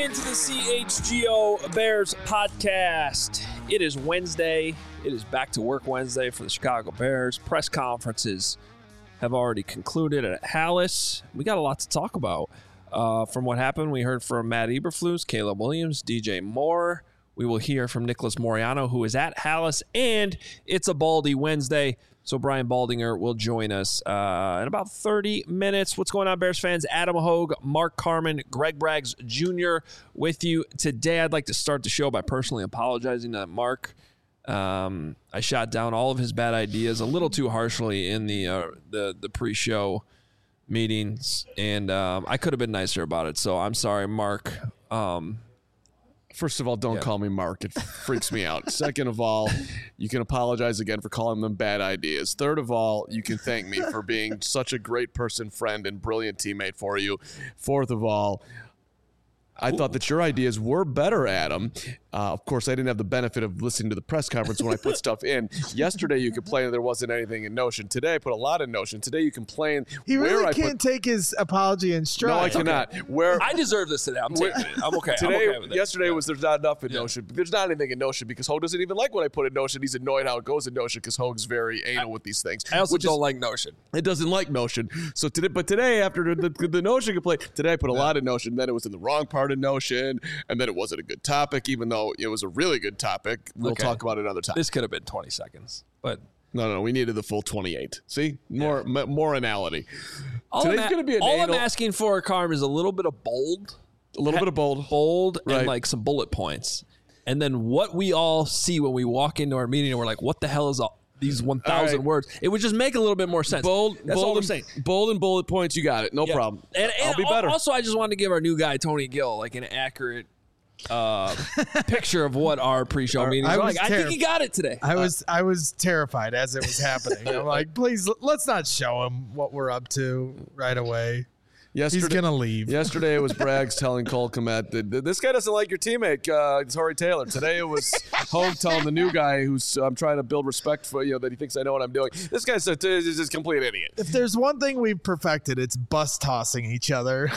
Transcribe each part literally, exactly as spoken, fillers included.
into the C H G O Bears podcast. It is Wednesday. It is back to work Wednesday for the Chicago Bears. Press conferences have already concluded at Halas. We got a lot to talk about. Uh, from what happened, we heard from Matt Eberflus, Caleb Williams, D J Moore. We will hear from Nicholas Moreano, who is at Halas, and it's a Baldy Wednesday. So Brian Baldinger will join us uh, in about thirty minutes. What's going on, Bears fans? Adam Hogue, Mark Carman, Greg Braggs Junior with you today. I'd like to start the show by personally apologizing to Mark. Um, I shot down all of his bad ideas a little too harshly in the uh, the, the pre-show meetings, and um, I could have been nicer about it. So I'm sorry, Mark. Um, First of all, don't yeah. call me Mark. It freaks me out. Second of all, you can apologize again for calling them bad ideas. Third of all, you can thank me for being such a great person, friend, and brilliant teammate for you. Fourth of all, I Ooh. thought that your ideas were better, Adam. Uh, of course, I didn't have the benefit of listening to the press conference when I put stuff in. Yesterday, you complained there wasn't anything in Notion. Today, I put a lot in Notion. Today, you complain. He really where can't I put, take his apology in stride. No, I cannot. Okay. Where I deserve this today. I'm taking it. I'm okay. Today, I'm okay with it. Yesterday yeah. was there's not enough in yeah. Notion. There's not anything in Notion because Hogue doesn't even like what I put in Notion. He's annoyed how it goes in Notion because Hogue's very anal I, with these things. I also which don't is, like Notion. It doesn't like Notion. So today, but today after the, the, the Notion complaint, today I put a yeah. lot in Notion. Then it was in the wrong part of Notion, and then it wasn't a good topic, even though it was a really good topic. We'll okay. talk about it another time. This could have been twenty seconds, but no, no, we needed the full twenty-eight. See, more yeah. m- more anality. All Today's going to be an all anal- I'm asking for, Carm, is a little bit of bold, a little ha- bit of bold, bold, right. and like some bullet points, and then what we all see when we walk into our meeting and we're like, "What the hell is all these one thousand right. words?" It would just make a little bit more sense. Bold, That's bold all I'm and, saying. Bold and bullet points. You got it. No yeah. problem. And, and I'll be better. Also, I just wanted to give our new guy Tony Gill like an accurate uh picture of what our pre-show meetings are like. Terri- I think he got it today. I was uh, I was terrified as it was happening. I'm like, please let's not show him what we're up to right away. Yesterday, he's gonna leave. Yesterday it was Braggs telling Cole Kmet that this guy doesn't like your teammate, uh, Torrey Taylor. Today it was Hogue telling the new guy who's I'm um, trying to build respect for, you know, that he thinks I know what I'm doing. This guy's a, is a complete idiot. If there's one thing we've perfected, it's bus tossing each other.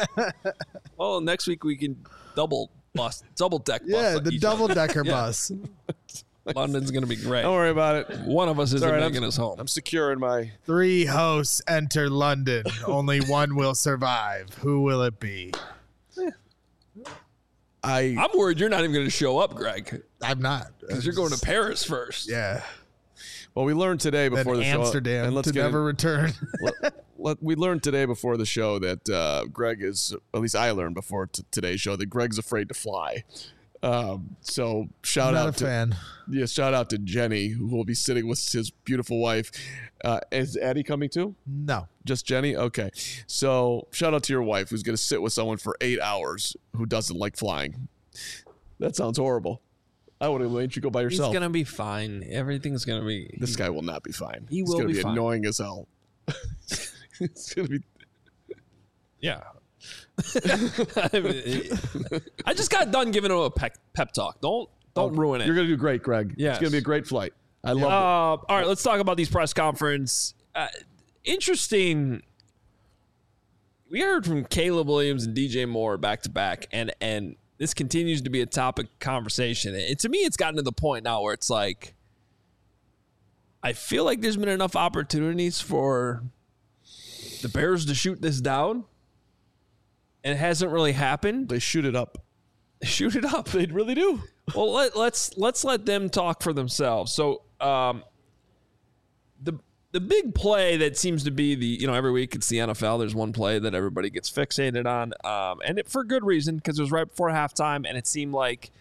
Well, next week we can double bus, double deck bus. Yeah, the double decker yeah. bus. London's going to be great. Don't worry about it. One of us isn't right, making I'm, us home. I'm secure in my... Three hosts enter London. Only one will survive. Who will it be? I, I'm worried you're not even going to show up, Greg. I'm not. Because you're going to Paris first. Yeah. Well, we learned today before then the show... Amsterdam and let's to never in, return. let, let, we learned today before the show that uh, Greg is... At least I learned before t- today's show that Greg's afraid to fly. Um, so shout Not out a to fan. yeah, shout out to Jenny, who will be sitting with his beautiful wife. Uh, is Addie coming too? No, just Jenny. Okay, so shout out to your wife, who's going to sit with someone for eight hours who doesn't like flying. That sounds horrible. I would have made you go by yourself. He's gonna be fine. Everything's gonna be. This guy will not be fine. He He's will gonna be, be fine. annoying as hell. It's gonna be. Yeah. I, mean, I just got done giving him a pep, pep talk. Don't don't oh, ruin it. You're gonna do great, Greg. Yeah, it's gonna be a great flight. I love uh, it. All right, let's talk about these press conference. Uh, interesting. We heard from Caleb Williams and D J Moore back to back, and and this continues to be a topic of conversation. And to me, it's gotten to the point now where it's like, I feel like there's been enough opportunities for the Bears to shoot this down. And it hasn't really happened. They shoot it up. They shoot it up. They really do. Well, let, let's let's let them talk for themselves. So, um, the the big play that seems to be the you know every week it's the N F L. There's one play that everybody gets fixated on, um, and it, for good reason because it was right before halftime, and it seemed like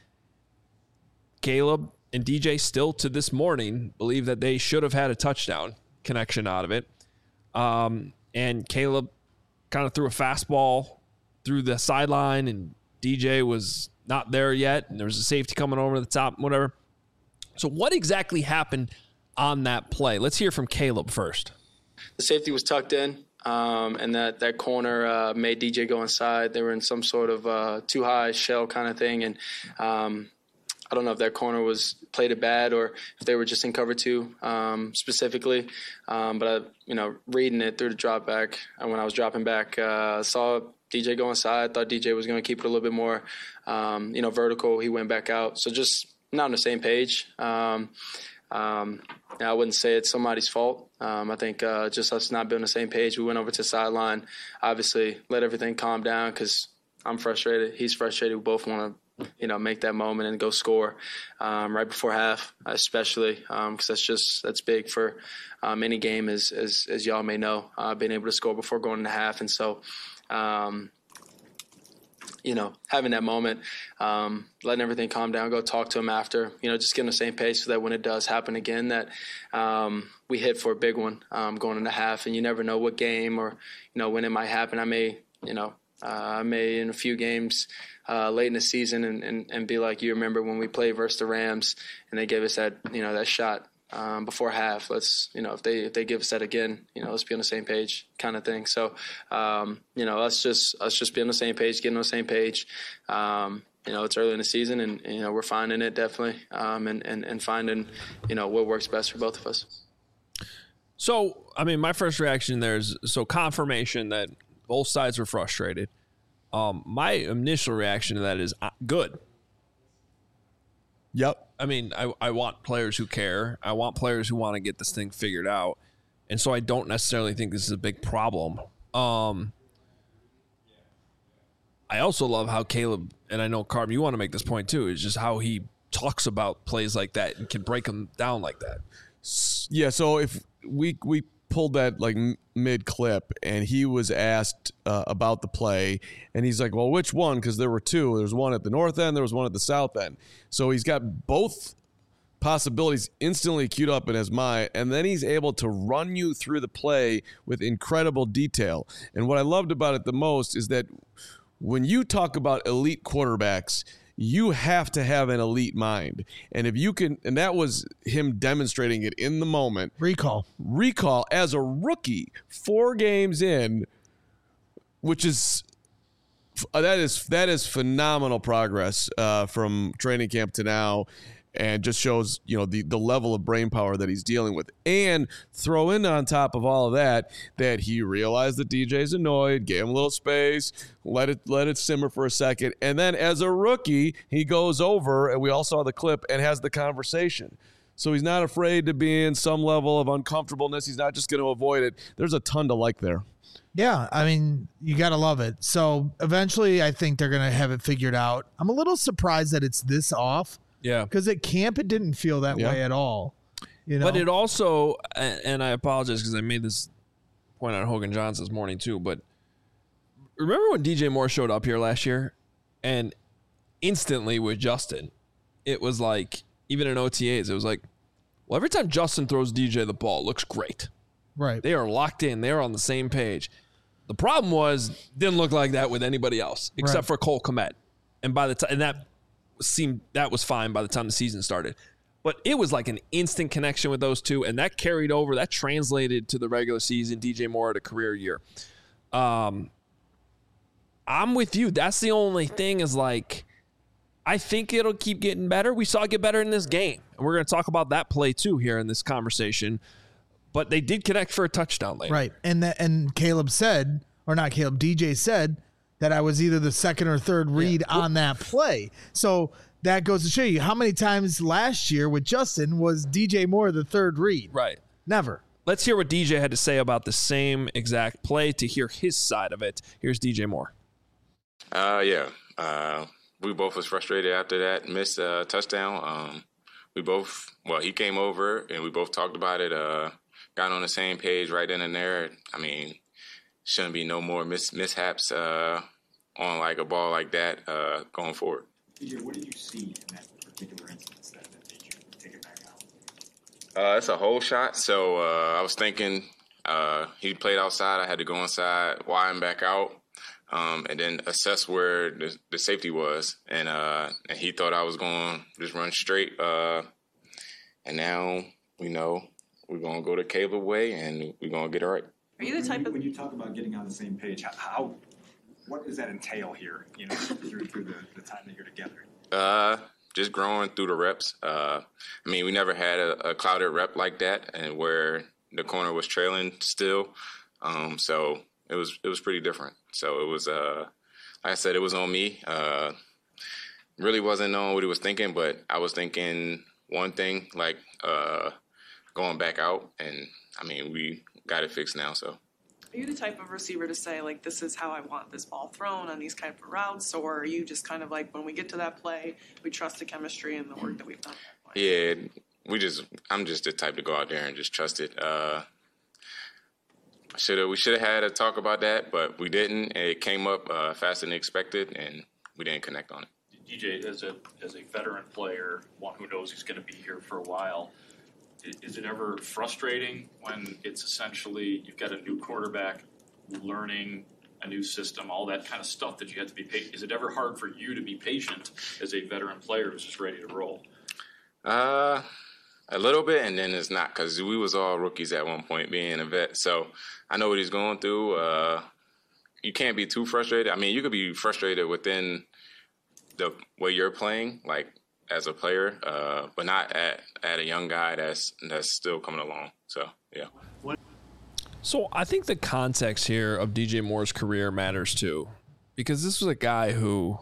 Caleb and D J still to this morning believe that they should have had a touchdown connection out of it, um, and Caleb kind of threw a fastball through the sideline, and D J was not there yet, and there was a safety coming over the top, whatever. So what exactly happened on that play? Let's hear from Caleb first. The safety was tucked in, um, and that, that corner uh, made D J go inside. They were in some sort of uh, too high shell kind of thing, and um, I don't know if that corner was played it bad or if they were just in cover two um, specifically. Um, but, I, you know, reading it through the drop back, and when I was dropping back, uh, saw D J go inside. Thought D J was going to keep it a little bit more, um, you know, vertical. He went back out. So just not on the same page. Um, um, I wouldn't say it's somebody's fault. Um, I think uh, just us not being on the same page. We went over to the sideline, obviously let everything calm down because I'm frustrated. He's frustrated. We both want to, you know, make that moment and go score um, right before half, especially because um, that's just that's big for um, any game, as as, as y'all may know, uh, being able to score before going into half. And so, um, you know, having that moment, um, letting everything calm down, go talk to him after, you know, just getting on the same page so that when it does happen again, that um, we hit for a big one um, going into half. And you never know what game or, you know, when it might happen. I may, you know, uh, I may in a few games uh, late in the season and, and, and be like, you remember when we played versus the Rams and they gave us that, you know, that shot um, before half. Let's, you know, if they if they give us that again, you know, let's be on the same page kind of thing. So, um, you know, let's just let's just be on the same page, getting on the same page. Um, you know, it's early in the season, and you know we're finding it definitely, um, and, and and finding, you know, what works best for both of us. So, I mean, my first reaction there is so confirmation that both sides were frustrated. Um, my initial reaction to that is uh, good. Yep. I mean, I, I want players who care. I want players who want to get this thing figured out. And so I don't necessarily think this is a big problem. Um, I also love how Caleb, and I know, Carm, you want to make this point too, is just how he talks about plays like that and can break them down like that. Yeah, so if we we pulled that like mid clip and he was asked uh, about the play and he's like, well, which one? Because there were two. There was one at the north end, there was one at the south end. So he's got both possibilities instantly queued up in his mind, and then he's able to run you through the play with incredible detail. And what I loved about it the most is that when you talk about elite quarterbacks, you have to have an elite mind. And if you can, and that was him demonstrating it in the moment. Recall. Recall as a rookie, four games in, which is, that is, that is phenomenal progress uh, from training camp to now. And just shows, you know, the, the level of brain power that he's dealing with. And throw in on top of all of that, that he realized that D J's annoyed, gave him a little space, let it let it simmer for a second. And then as a rookie, he goes over, and we all saw the clip, and has the conversation. So he's not afraid to be in some level of uncomfortableness. He's not just going to avoid it. There's a ton to like there. Yeah, I mean, you got to love it. So eventually I think they're going to have it figured out. I'm a little surprised that it's this off. Yeah, because at camp it didn't feel that yeah. way at all. You know, but it also, and I apologize because I made this point on Hogan Johns this morning too. But remember when D J Moore showed up here last year, and instantly with Justin, it was like even in O T As, it was like, well, every time Justin throws D J the ball, it looks great. Right, they are locked in. They are on the same page. The problem was didn't look like that with anybody else except right. for Cole Kmet, and by the time and that. seemed that was fine by the time the season started, but it was like an instant connection with those two, and that carried over. That translated to the regular season. D J Moore had a career year. Um, I'm with you. That's the only thing is like, I think it'll keep getting better. We saw it get better in this game, and we're going to talk about that play too here in this conversation. But they did connect for a touchdown later, right? And that, and Caleb said, or not Caleb, D J said, that I was either the second or third read yeah. on that play. So that goes to show you how many times last year with Justin was D J Moore the third read. Right. Never. Let's hear what D J had to say about the same exact play to hear his side of it. Here's D J Moore. Uh, yeah. Uh, we both was frustrated after that missed uh, touchdown. Um, we both, well, he came over and we both talked about it, uh, got on the same page right then and there. I mean, shouldn't be no more mis- mishaps uh, on like a ball like that uh, going forward. D J, what did you see in that particular instance that, that made you take it back out? Uh, it's a hole shot. So uh, I was thinking uh, he played outside. I had to go inside, widen back out, um, and then assess where the, the safety was. And uh, and he thought I was going to just run straight. Uh, and now we know we're going to go the Caleb way, and we're going to get it right. Are you the type of when you talk about getting on the same page? How, how what does that entail here? You know, through through the, the time that you're together. Uh, just growing through the reps. Uh, I mean, we never had a, a clouded rep like that, and where the corner was trailing still. Um, so it was it was pretty different. So it was, uh, like I said, it was on me. Uh, really wasn't knowing what he was thinking, but I was thinking one thing, like uh, going back out, and I mean, we got it fixed now. So. Are you the type of receiver to say, like, this is how I want this ball thrown on these kind of routes, or are you just kind of like, when we get to that play, we trust the chemistry and the work that we've done? Yeah, we just. I'm just the type to go out there and just trust it. Uh, should have we should have had a talk about that, but we didn't. It came up uh, faster than expected, and we didn't connect on it. D J, as a as a veteran player, one who knows he's going to be here for a while, is it ever frustrating when it's essentially you've got a new quarterback learning a new system, all that kind of stuff that you have to be patient? Is it ever hard for you to be patient as a veteran player who's just ready to roll? Uh, a little bit, and then it's not, because we was all rookies at one point being a vet. So I know what he's going through. Uh, you can't be too frustrated. I mean, you could be frustrated within the way you're playing, like as a player, uh, but not at, at a young guy that's that's still coming along. So, yeah. So I think the context here of D J Moore's career matters too, because this was a guy who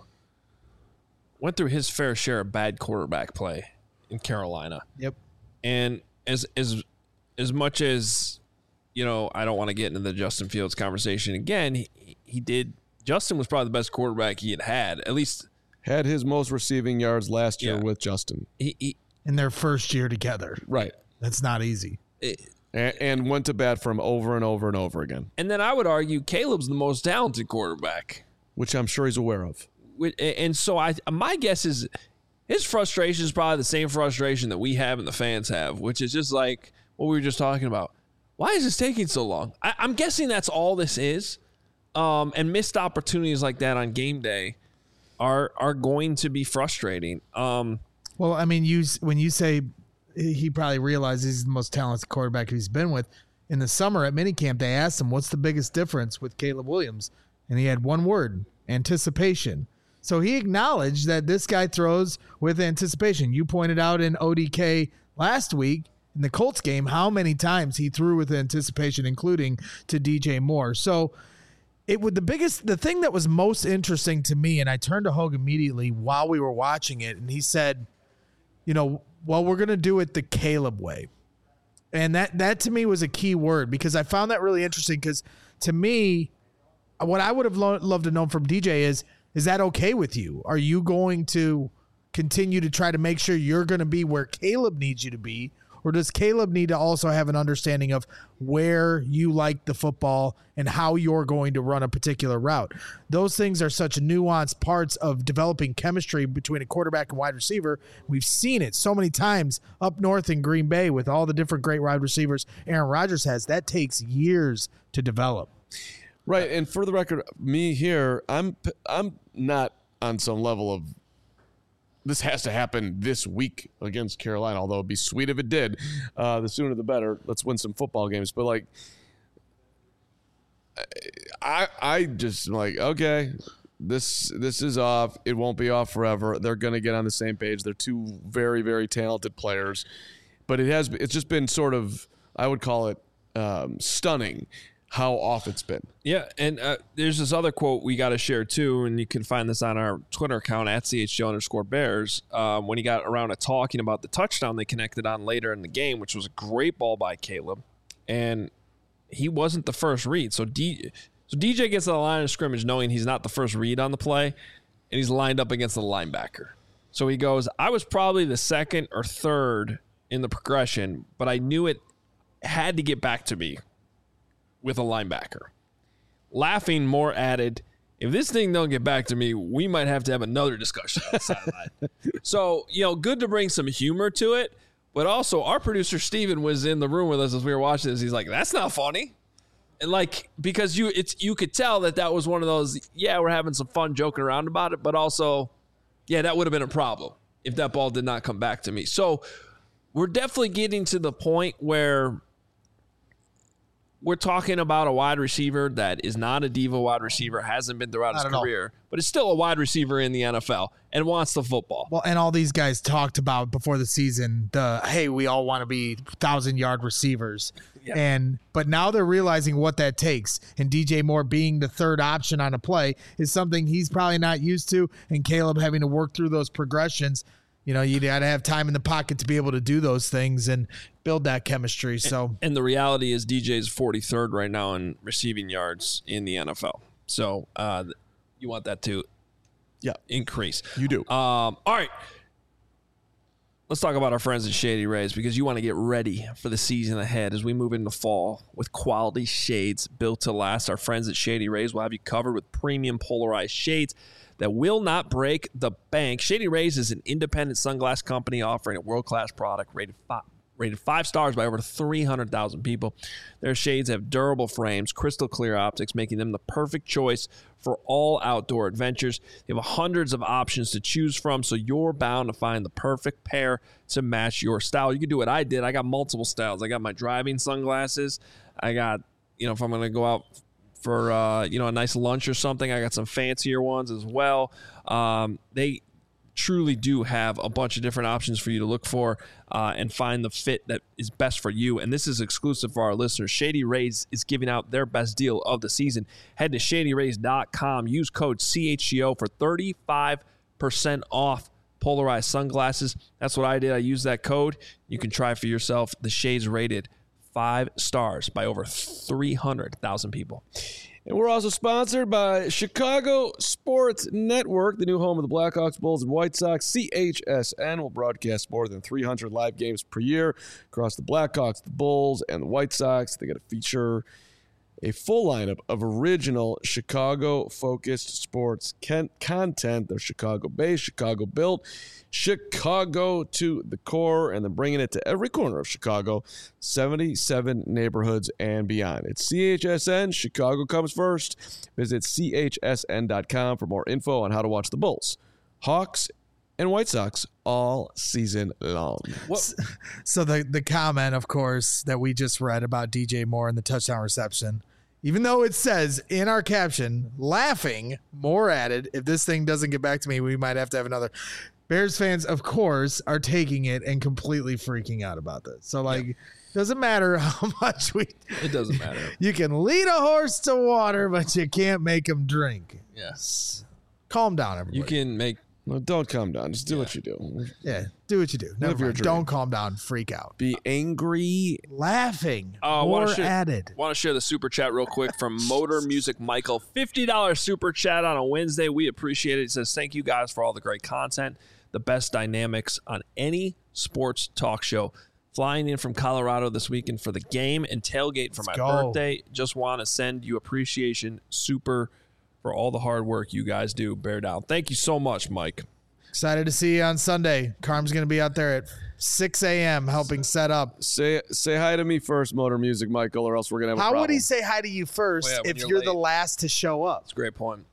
went through his fair share of bad quarterback play in Carolina. Yep. And as as as much as, you know, I don't want to get into the Justin Fields conversation again, he, he did. Justin was probably the best quarterback he had had, at least. Had his most receiving yards last year Yeah. with Justin. He, he, In their first year together. Right. That's not easy. it, And, and went to bat for him over and over and over again, and then I would argue Caleb's the most talented quarterback. which I'm sure he's aware of. And so I, my guess is his frustration is probably the same frustration that we have and the fans have, which is just like what we were just talking about. Why is this taking so long? I, I'm guessing that's all this is. Um, and missed opportunities like that on game day are are going to be frustrating. Um, Well, I mean, you when you say he probably realizes he's the most talented quarterback he's been with. In the summer at minicamp, they asked him, what's the biggest difference with Caleb Williams? And he had one word, anticipation. So he acknowledged that this guy throws with anticipation. You pointed out in O D K last week in the Colts game how many times he threw with anticipation, including to D J Moore. So it would the biggest the thing that was most interesting to me, and I turned to Hogue immediately while we were watching it, and he said, you know, well, we're going to do it the Caleb way. And that, that to me was a key word, because I found that really interesting, because to me, what I would have lo- loved to know from D J is, is that okay with you? Are you going to continue to try to make sure you're going to be where Caleb needs you to be? Or does Caleb need to also have an understanding of where you like the football and how you're going to run a particular route? Those things are such nuanced parts of developing chemistry between a quarterback and wide receiver. We've seen it so many times up north in Green Bay with all the different great wide receivers Aaron Rodgers has. That takes years to develop. Right, and for the record, me here, I'm I'm not on some level of this has to happen this week against Carolina, although it'd be sweet if it did. Uh, the sooner the better. Let's win some football games. But, like, I I just, like, okay, this this is off. It won't be off forever. They're going to get on the same page. They're two very, very talented players. But it has it's just been sort of, I would call it um, stunning how off it's been. Yeah, and uh, there's this other quote we got to share too, and you can find this on our Twitter account at C H G O underscore Bears. Um, when he got around to talking about the touchdown they connected on later in the game, which was a great ball by Caleb, and he wasn't the first read. So D, so D J gets to the line of scrimmage knowing he's not the first read on the play, and he's lined up against the linebacker. So he goes, I was probably the second or third in the progression, but I knew it had to get back to me with a linebacker. Laughing, Moore added, if this thing don't get back to me, we might have to have another discussion on the sideline. So, you know, good to bring some humor to it, but also our producer Steven was in the room with us as we were watching this. He's like, that's not funny. And like, because you it's you could tell that that was one of those, yeah, we're having some fun joking around about it, but also, yeah, that would have been a problem if that ball did not come back to me. So we're definitely getting to the point where we're talking about a wide receiver that is not a diva wide receiver, hasn't been throughout his Not at all. career, but is still a wide receiver in the N F L and wants the football. Well, and all these guys talked about before the season, the hey, we all want to be thousand yard receivers. Yeah. And but now they're realizing what that takes. And D J Moore being the third option on a play is something he's probably not used to. And Caleb having to work through those progressions. You know, you got to have time in the pocket to be able to do those things and build that chemistry. So, And the reality is D J's forty-third right now in receiving yards in the N F L. So uh, you want that to Yeah. increase. You do. Um, all right. Let's talk about our friends at Shady Rays because you want to get ready for the season ahead as we move into fall with quality shades built to last. Our friends at Shady Rays will have you covered with premium polarized shades that will not break the bank. Shady Rays is an independent sunglass company offering a world-class product rated five, rated five stars by over three hundred thousand people. Their shades have durable frames, crystal clear optics, making them the perfect choice for all outdoor adventures. They have hundreds of options to choose from, so you're bound to find the perfect pair to match your style. You can do what I did. I got multiple styles. I got my driving sunglasses. I got, you know, if I'm going to go out for, uh, you know, a nice lunch or something, I got some fancier ones as well. Um, they truly do have a bunch of different options for you to look for uh, and find the fit that is best for you. And this is exclusive for our listeners. Shady Rays is giving out their best deal of the season. Head to shady rays dot com. Use code C H G O for thirty-five percent off polarized sunglasses. That's what I did. I used that code. You can try for yourself. The shades rated five stars by over three hundred thousand people. And we're also sponsored by Chicago Sports Network, the new home of the Blackhawks, Bulls, and White Sox. C H S N will broadcast more than three hundred live games per year across the Blackhawks, the Bulls, and the White Sox. They got to feature a full lineup of original Chicago-focused sports con- content. They're Chicago-based, Chicago-built, Chicago to the core, and then bringing it to every corner of Chicago, seventy-seven neighborhoods and beyond. It's C H S N. Chicago comes first. Visit C H S N dot com for more info on how to watch the Bulls, Hawks, and White Sox all season long. What? so the the comment, of course, that we just read about D J Moore and the touchdown reception, even though it says in our caption, laughing, Moore added, if this thing doesn't get back to me, we might have to have another. Bears fans, of course, are taking it and completely freaking out about this. So, like, yeah. Doesn't matter how much we. It doesn't matter. You can lead a horse to water, but you can't make him drink. Yes. Calm down, everybody. You can make. No, don't calm down. Just do yeah. what you do. Yeah, do what you do. Never mind. Don't calm down. Freak out. Be angry. Laughing. Uh, More share, added. Want to share the super chat real quick from Motor Music Michael. fifty dollars super chat on a Wednesday. We appreciate it. He says, thank you guys for all the great content. The best dynamics on any sports talk show. Flying in from Colorado this weekend for the game and tailgate for Let's my go. birthday. Just want to send you appreciation. Super for all the hard work you guys do. Bear down. Thank you so much, Mike. Excited to see you on Sunday. Carm's going to be out there at six a.m. helping set up. Say say hi to me first, Motor Music Michael, or else we're going to have a How problem. would he say hi to you first well, yeah, if you're, you're late. the last to show up? That's a great point.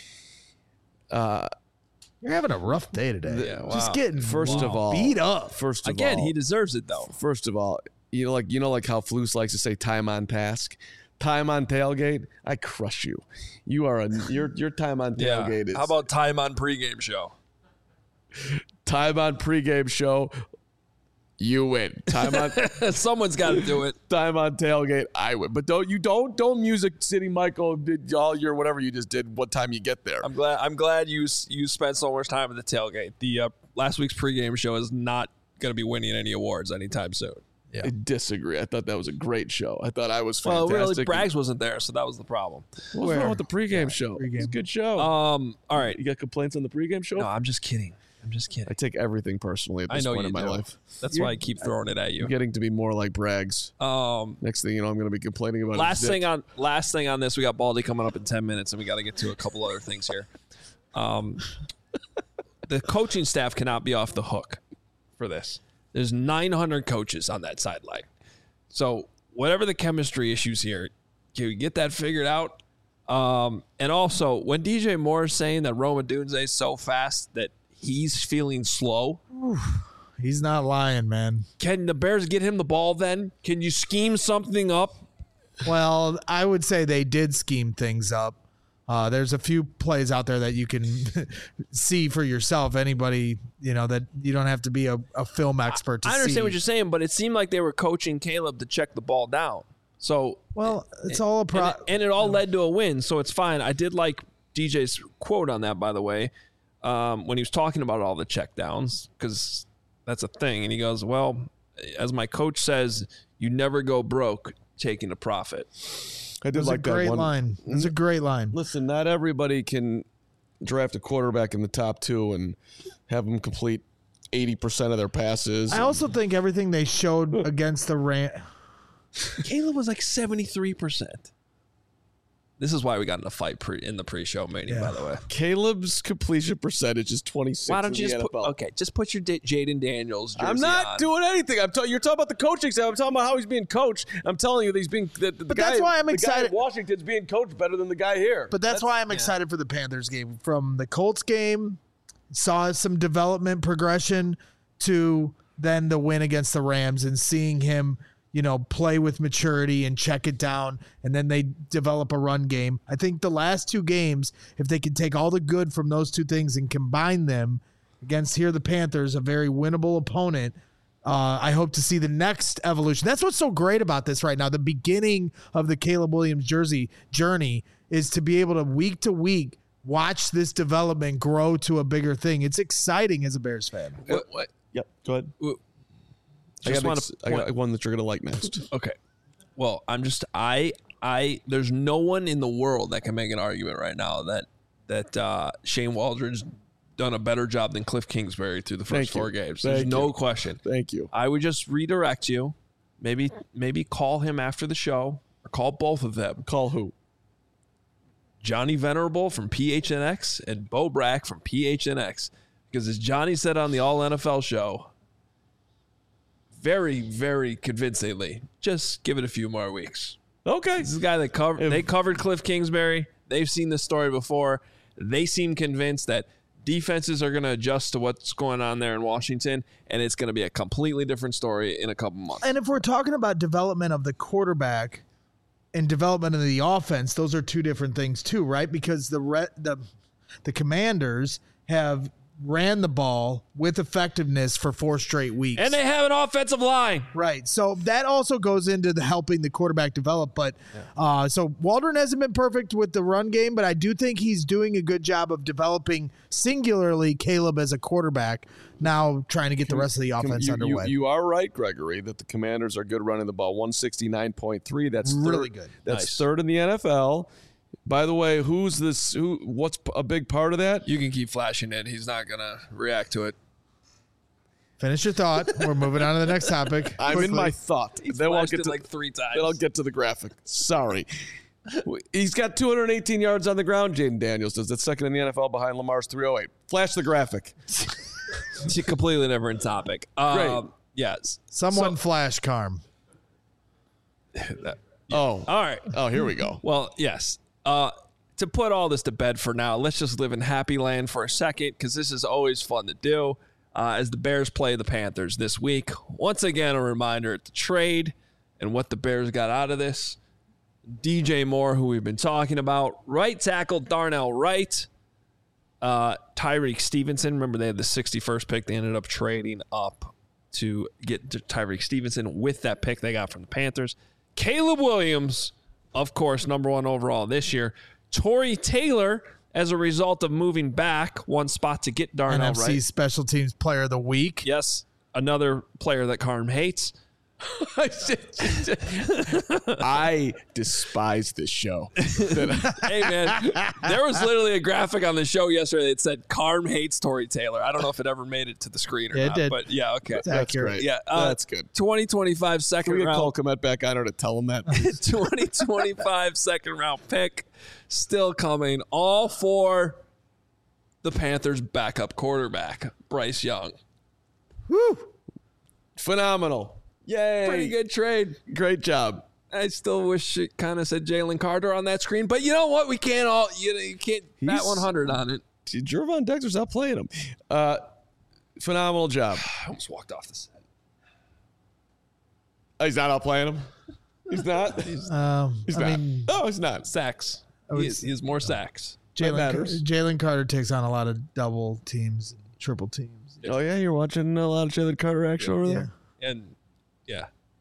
Uh, You're having a rough day today. Yeah, wow. Just getting First of all, beat up. First of Again, all, he deserves it, though. First of all, you know, like you know, like how Flus likes to say "time on task." Time on tailgate, I crush you. You are a your your time on tailgate Yeah. is How about time on pregame show? time on pregame show. You win. Time on Someone's got to do it. time on tailgate. I win. But don't you don't don't Music City Michael did all your whatever you just did. What time you get there? I'm glad. I'm glad you you spent so much time at the tailgate. The uh, last week's pregame show is not going to be winning any awards anytime soon. Yeah. I disagree. I thought that was a great show. I thought I was Well, fantastic. really, Braggs wasn't there, so that was the problem. What's Where? wrong with the pregame Yeah, show? pregame. It's a good show. Um. All right. You got complaints on the pregame show? No, I'm just kidding. I'm just I kidding. take everything personally at I this know point you in my do. life. That's why I keep throwing it at you. I'm getting to be more like Braggs. Um. Next thing you know, I'm going to be complaining about Last his thing dick. on last thing on this, we got Baldy coming up in ten minutes, and we got to get to a couple other things here. Um, the coaching staff cannot be off the hook for this. There's nine hundred coaches on that sideline, so whatever the chemistry issues here, can we get that figured out? Um, and also, when D J Moore is saying that Rome Odunze is so fast that he's feeling slow, He's not lying, man. can the Bears get him the ball then? Can you scheme something up Well, I would say they did scheme things up. Uh, there's a few plays out there that you can see for yourself. Anybody, you know, that you don't have to be a, a film expert to see. I understand what you're saying, but it seemed like they were coaching Caleb to check the ball down. So, well, it's all a pro. And it, and it all led to a win, so it's fine. I did like D J's quote on that, by the way, um, when he was talking about all the checkdowns, because that's a thing. And he goes, well, as my coach says, you never go broke taking a profit. I did That's like a great that one. line. It's a great line. Listen, not everybody can draft a quarterback in the top two and have them complete eighty percent of their passes. I also think everything they showed against the Ram. Caleb was like seventy-three percent. This is why we got in a fight pre in the pre-show meeting, Yeah. by the way. Caleb's completion percentage is twenty-six. Why don't you in just the put, N F L. okay, just put your D- Jaden Daniels jersey I'm not on. doing anything. I'm talking. You're talking about the coaching staff. I'm talking about how he's being coached. I'm telling you, that he's being. The, the But guy, that's why I'm the excited- Guy in Washington's being coached better than the guy here. But that's, why I'm excited for the Panthers game. From the Colts game, saw some development progression to then the win against the Rams and seeing him, you know, play with maturity and check it down, and then they develop a run game. I think the last two games, if they could take all the good from those two things and combine them against here the Panthers, a very winnable opponent, uh, I hope to see the next evolution. That's what's so great about this right now. The beginning of the Caleb Williams jersey journey is to be able to week to week watch this development grow to a bigger thing. It's exciting as a Bears fan. What, what, Yep. Go ahead. I just got, want ex- to I got one that you're gonna like next. Okay. Well, I'm just I I there's no one in the world that can make an argument right now that that uh, Shane Waldron's done a better job than Cliff Kingsbury through the first Thank you. four games. There's Thank no you. question. Thank you. I would just redirect you. Maybe maybe call him after the show or call both of them. Call who? Johnny Venerable from P H N X and Bo Brack from P H N X. Because as Johnny said on the All N F L show, very, very convincingly, just give it a few more weeks. Okay. This is a guy that covered. If- They covered Cliff Kingsbury. They've seen this story before. They seem convinced that defenses are going to adjust to what's going on there in Washington, and it's going to be a completely different story in a couple months. And if we're talking about development of the quarterback and development of the offense, those are two different things too, right? Because the re- the the Commanders have ran the ball with effectiveness for four straight weeks. And they have an offensive line. Right. So that also goes into the helping the quarterback develop. But uh, so Waldron hasn't been perfect with the run game, but I do think he's doing a good job of developing singularly Caleb as a quarterback, now trying to get the rest of the offense you, underway. You, you are right, Gregory, that the Commanders are good running the ball. one sixty-nine point three. That's Really third, good. That's Nice. third in the N F L. By the way, who's this? Who? What's a big part of that? You can keep flashing it. He's not going to react to it. Finish your thought. We're moving on to the next topic. I'm in Quickly. my thought. He's then I'll flashed get it to like three times. Then I'll get to the graphic. Sorry. He's got two hundred eighteen yards on the ground, Jaden Daniels does. That's second in the N F L behind Lamar's three oh eight. Flash the graphic. It's a completely different topic. Great. Um, yes. Someone So- flash Carm. that- Oh. all right. Oh, here we go. Well, yes. Uh, to put all this to bed for now, let's just live in happy land for a second because this is always fun to do uh, as the Bears play the Panthers this week. Once again, a reminder at the trade and what the Bears got out of this. D J Moore, who we've been talking about, right tackle Darnell Wright, uh, Tyreek Stevenson. Remember, they had the sixty-first pick. They ended up trading up to get to Tyreek Stevenson with that pick they got from the Panthers. Caleb Williams, of course, number one overall this year. Torrey Taylor, as a result of moving back one spot to get Darnell N F C Wright. Special Teams Player of the Week. Yes, another player that Carm hates. I despise this show. Hey, man, there was literally a graphic on the show yesterday that said Carm hates Torrey Taylor. I don't know if it ever made it to the screen or Yeah, it not, did. but yeah, okay. It's That's accurate. great. Yeah, uh, That's good. twenty twenty-five second Can we get round. Cole Kmet back on her to tell him that? twenty twenty-five second round pick still coming, all for the Panthers backup quarterback, Bryce Young. Woo! Phenomenal. Yay. Pretty good trade. Great job. I still wish it kind of said Jalen Carter on that screen, but you know what? We can't all you, know, you can't bat He's- one hundred on it. Jervon Dexter's not playing him. Uh, phenomenal job. I almost walked off the set. Oh, he's not out playing him? He's not. Um, He's I not. mean, no, he's not. Sacks. would He, is, he has more sacks. Jalen matters. Jalen Carter takes on a lot of double teams, and triple teams. Oh yeah, you're watching a lot of Jalen Carter action over there. And yeah,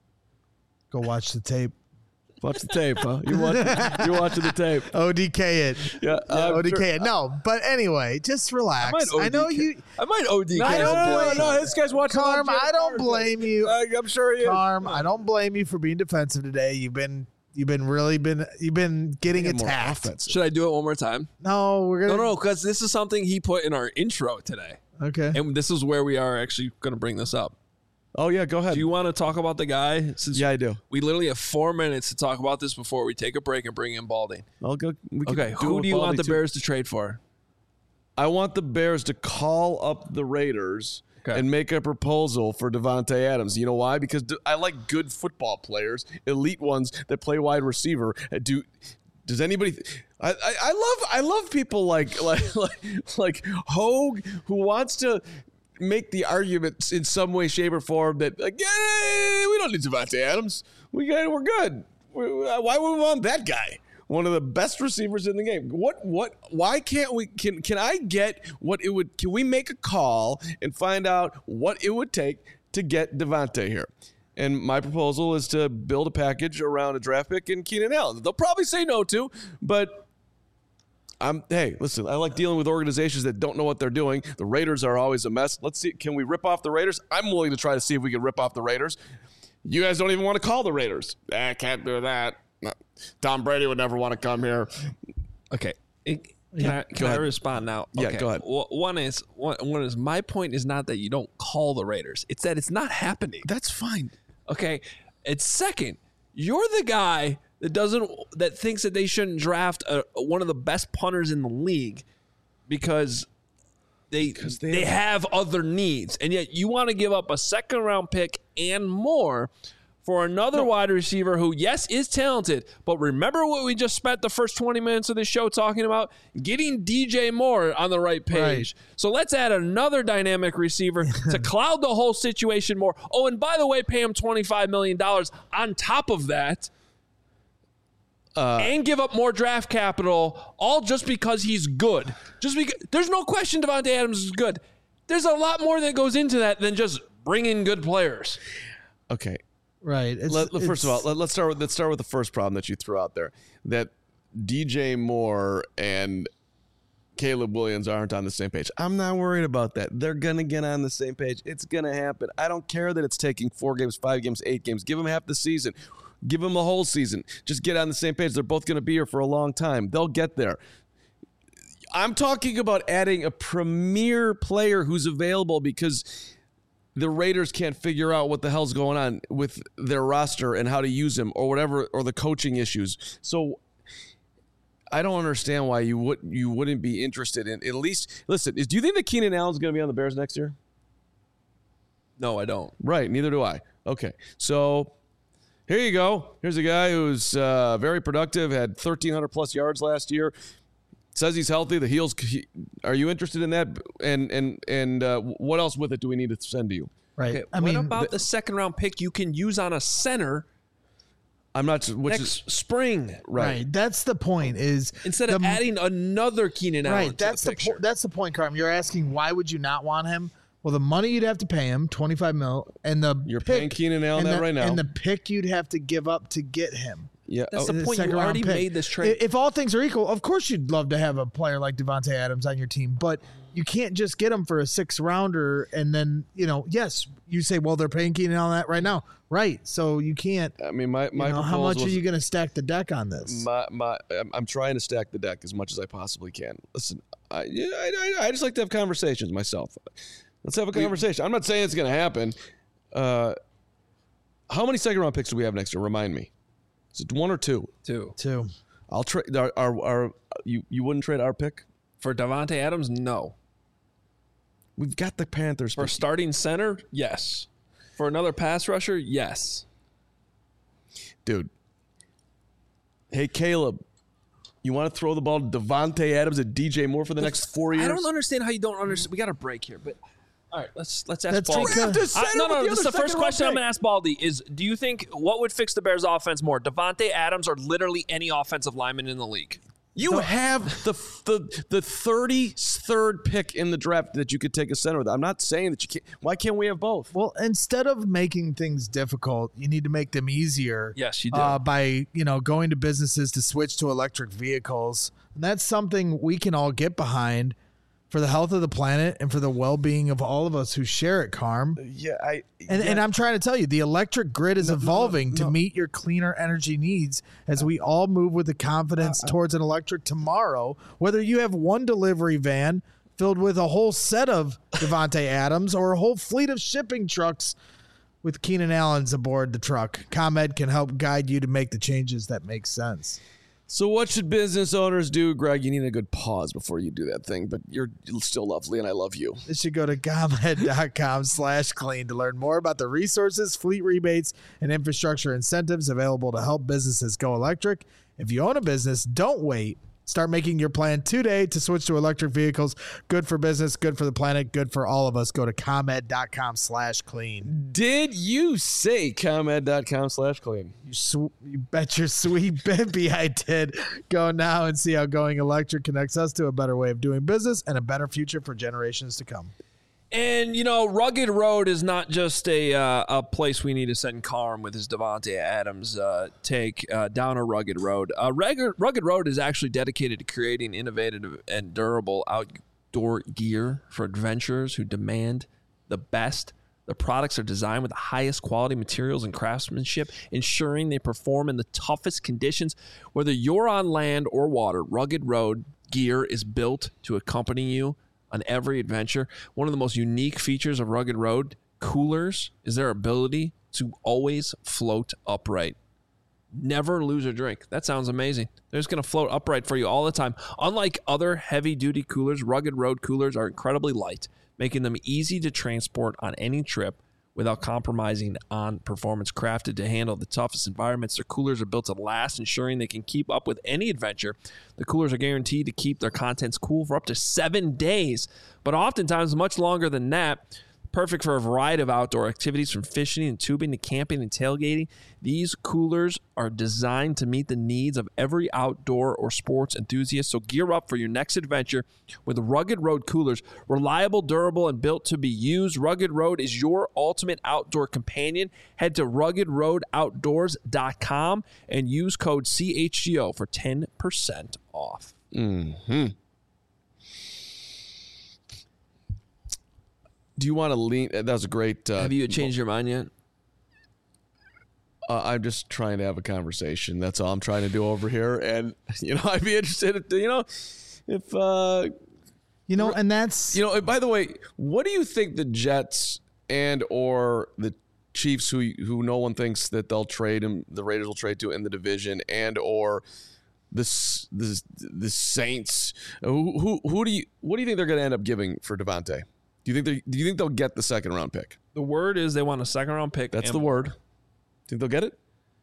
Go watch the tape. Watch the tape, huh? You're watching. You're watching the tape. O D K it. Yeah, I'm O D K sure- it. No, but anyway, just relax. I, might I know O D K you, I might O D K. I don't no, blame- no, no, this guy's watching. a lot of Carm. Jalen I don't Carter blame things. you. I, I'm sure he is. Carm. I don't blame you for being defensive today. You've been, you've been really been, you've been getting Get more attacked. offensive. Should I do it one more time? No, we're gonna. No, no, because this is something he put in our intro today, Okay. and this is where we are actually going to bring this up. Oh yeah, go ahead. Do you want to talk about the guy? Since yeah, I do. we literally have four minutes to talk about this before we take a break and bring in Balding. I'll go. We can Okay, do it who with do you want Baldy, the too. Bears to trade for? I want the Bears to call up the Raiders Okay. and make a proposal for Devontae Adams. You know why? Because d- I like good football players, elite ones that play wide receiver. Uh, Do does anybody? Th- I, I I love I love people like like like like Hogue who wants to make the argument in some way, shape, or form that like, yeah, we don't need Devontae Adams. We got we're good. We, why would we want that guy? One of the best receivers in the game. What? What? Why can't we? Can Can I get what it would? Can we make a call and find out what it would take to get Devontae here? And my proposal is to build a package around a draft pick and Keenan Allen. They'll probably say no to, but I'm. Hey, listen. I like dealing with organizations that don't know what they're doing. The Raiders are always a mess. Let's see. Can we rip off the Raiders? I'm willing to try to see if we can rip off the Raiders. You guys don't even want to call the Raiders. I can't do that. No. Tom Brady would never want to come here. Okay. It- Can, I, can I ahead. respond now? Yeah, Okay. go ahead. Well, one is one, one is my point is not that you don't call the Raiders. It's that it's not happening. That's fine. Okay. It's second. You're the guy that doesn't that thinks that they shouldn't draft a, one of the best punters in the league because they they they have other needs, and yet you want to give up a second round pick and more for another wide receiver who, yes, is talented, but remember what we just spent the first twenty minutes of this show talking about? Getting D J Moore on the right page. Right. So let's add another dynamic receiver to cloud the whole situation more. Oh, and by the way, pay him twenty-five million dollars on top of that. Uh, and give up more draft capital, all just because he's good. Just because there's no question Devontae Adams is good. There's a lot more that goes into that than just bringing good players. Okay. Right. It's, Let, first of all, it's- let, let's start with let's start with the first problem that you threw out there. That D J Moore and Caleb Williams aren't on the same page. I'm not worried about that. They're gonna get on the same page. It's gonna happen. I don't care that it's taking four games, five games, eight games. Give them half the season. Give them a whole season. Just get on the same page. They're both going to be here for a long time. They'll get there. I'm talking about adding a premier player who's available because the Raiders can't figure out what the hell's going on with their roster and how to use him or whatever, or the coaching issues. So I don't understand why you would you wouldn't be interested in at least listen. Is do you think that Keenan Allen's going to be on the Bears next year? No, I don't. Right. Neither do I. Okay. So here you go. Here's a guy who's uh, very productive, had thirteen hundred plus yards last year. Says he's healthy. The heels. He, are you interested in that? And and and uh, what else with it do we need to send to you? right. Okay, I what mean, about the- the second round pick you can use on a center I'm not. Which next is spring? right. right. That's the point. Is Instead of the- adding another Keenan Allen right. to That's the the, picture. po- that's the point, Carm. You're asking why would you not want him? Well, the money you'd have to pay him, twenty-five mil, and the You're pick, paying Keenan Allen and that the, right now. and the pick you'd have to give up to get him. Yeah. That's oh, the the point. You second round already pick. made this trade. If all things are equal, of course you'd love to have a player like Devontae Adams on your team, but you can't just get him for a six rounder and then, you know, yes, you say, well, they're paying Keenan on that right now. Right. So you can't, I mean, my my you know, how proposal much are is- you going to stack the deck on this? My, my, I'm, I'm trying to stack the deck as much as I possibly can. Listen, I, yeah, I, I, I just like to have conversations myself. Let's have a conversation. I'm not saying it's going to happen. Uh, how many second round picks do we have next year? Remind me. Is it one or two? Too. Too. I'll trade. Our, our, our, you, you wouldn't trade our pick? For Devontae Adams, no. We've got the Panthers. For pick. starting center, yes. For another pass rusher, yes. Dude. Hey, Caleb. You want to throw the ball to Devontae Adams and D J Moore for the next four years? I don't understand how you don't understand. We got a break here, but All right, let's let's ask That's Baldy. because- Uh, no, no, this is the first second question round I'm going to ask Baldy is, do you think what would fix the Bears offense more, Devontae Adams or literally any offensive lineman in the league? You have the the the thirty-third pick in the draft that you could take a center with. I'm not saying that you can't. Why can't we have both? Well, instead of making things difficult, you need to make them easier. Yes, you do. Uh, by you know going to businesses to switch to electric vehicles, and that's something we can all get behind for the health of the planet and for the well-being of all of us who share it, Carm. Yeah, I And, yeah. and I'm trying to tell you, the electric grid is No, no, evolving no, to no. meet your cleaner energy needs as we all move with the confidence Uh, towards an electric tomorrow. Whether you have one delivery van filled with a whole set of Devontae Adams or a whole fleet of shipping trucks with Keenan Allen's aboard the truck, ComEd can help guide you to make the changes that make sense. So what should business owners do, Greg? You need a good pause before you do that thing, but you're still lovely and I love you. They should go to ComEd.com slash clean to learn more about the resources, fleet rebates, and infrastructure incentives available to help businesses go electric. If you own a business, don't wait. Start making your plan today to switch to electric vehicles. Good for business, good for the planet, good for all of us. Go to ComEd.com slash clean. Did you say ComEd.com slash clean? You, sw- you bet your sweet baby I did. Go now and see how going electric connects us to a better way of doing business and a better future for generations to come. And, you know, Rugged Road is not just a uh, a place we need to send Carm with his Devontae Adams uh, take uh, down a rugged road. Uh, Rugged, Rugged Road is actually dedicated to creating innovative and durable outdoor gear for adventurers who demand the best. The products are designed with the highest quality materials and craftsmanship, ensuring they perform in the toughest conditions. Whether you're on land or water, Rugged Road gear is built to accompany you on every adventure. One of the most unique features of Rugged Road coolers is their ability to always float upright. Never lose a drink. That sounds amazing. They're just going to float upright for you all the time. Unlike other heavy-duty coolers, Rugged Road coolers are incredibly light, making them easy to transport on any trip without compromising on performance. Crafted to handle the toughest environments, their coolers are built to last, ensuring they can keep up with any adventure. The coolers are guaranteed to keep their contents cool for up to seven days, but oftentimes much longer than that. Perfect for a variety of outdoor activities, from fishing and tubing to camping and tailgating. These coolers are designed to meet the needs of every outdoor or sports enthusiast. So gear up for your next adventure with Rugged Road coolers. Reliable, durable, and built to be used. Rugged Road is your ultimate outdoor companion. Head to rugged road outdoors dot com and use code C H G O for ten percent off. Mm-hmm. Do you want to lean? That was a great. Uh, Have you changed your mind yet? Uh, I'm just trying to have a conversation. That's all I'm trying to do over here. And, you know, I'd be interested, if, you know, if, uh, You know, and that's you know, by the way, what do you think the Jets and or the Chiefs, who who no one thinks that they'll trade him, the Raiders will trade to in the division, and or the the the Saints, who who, who do you what do you think they're going to end up giving for Devontae? Do you think they do you think they'll get the second round pick? The word is they want a second round pick. That's and the word. Think they'll get it?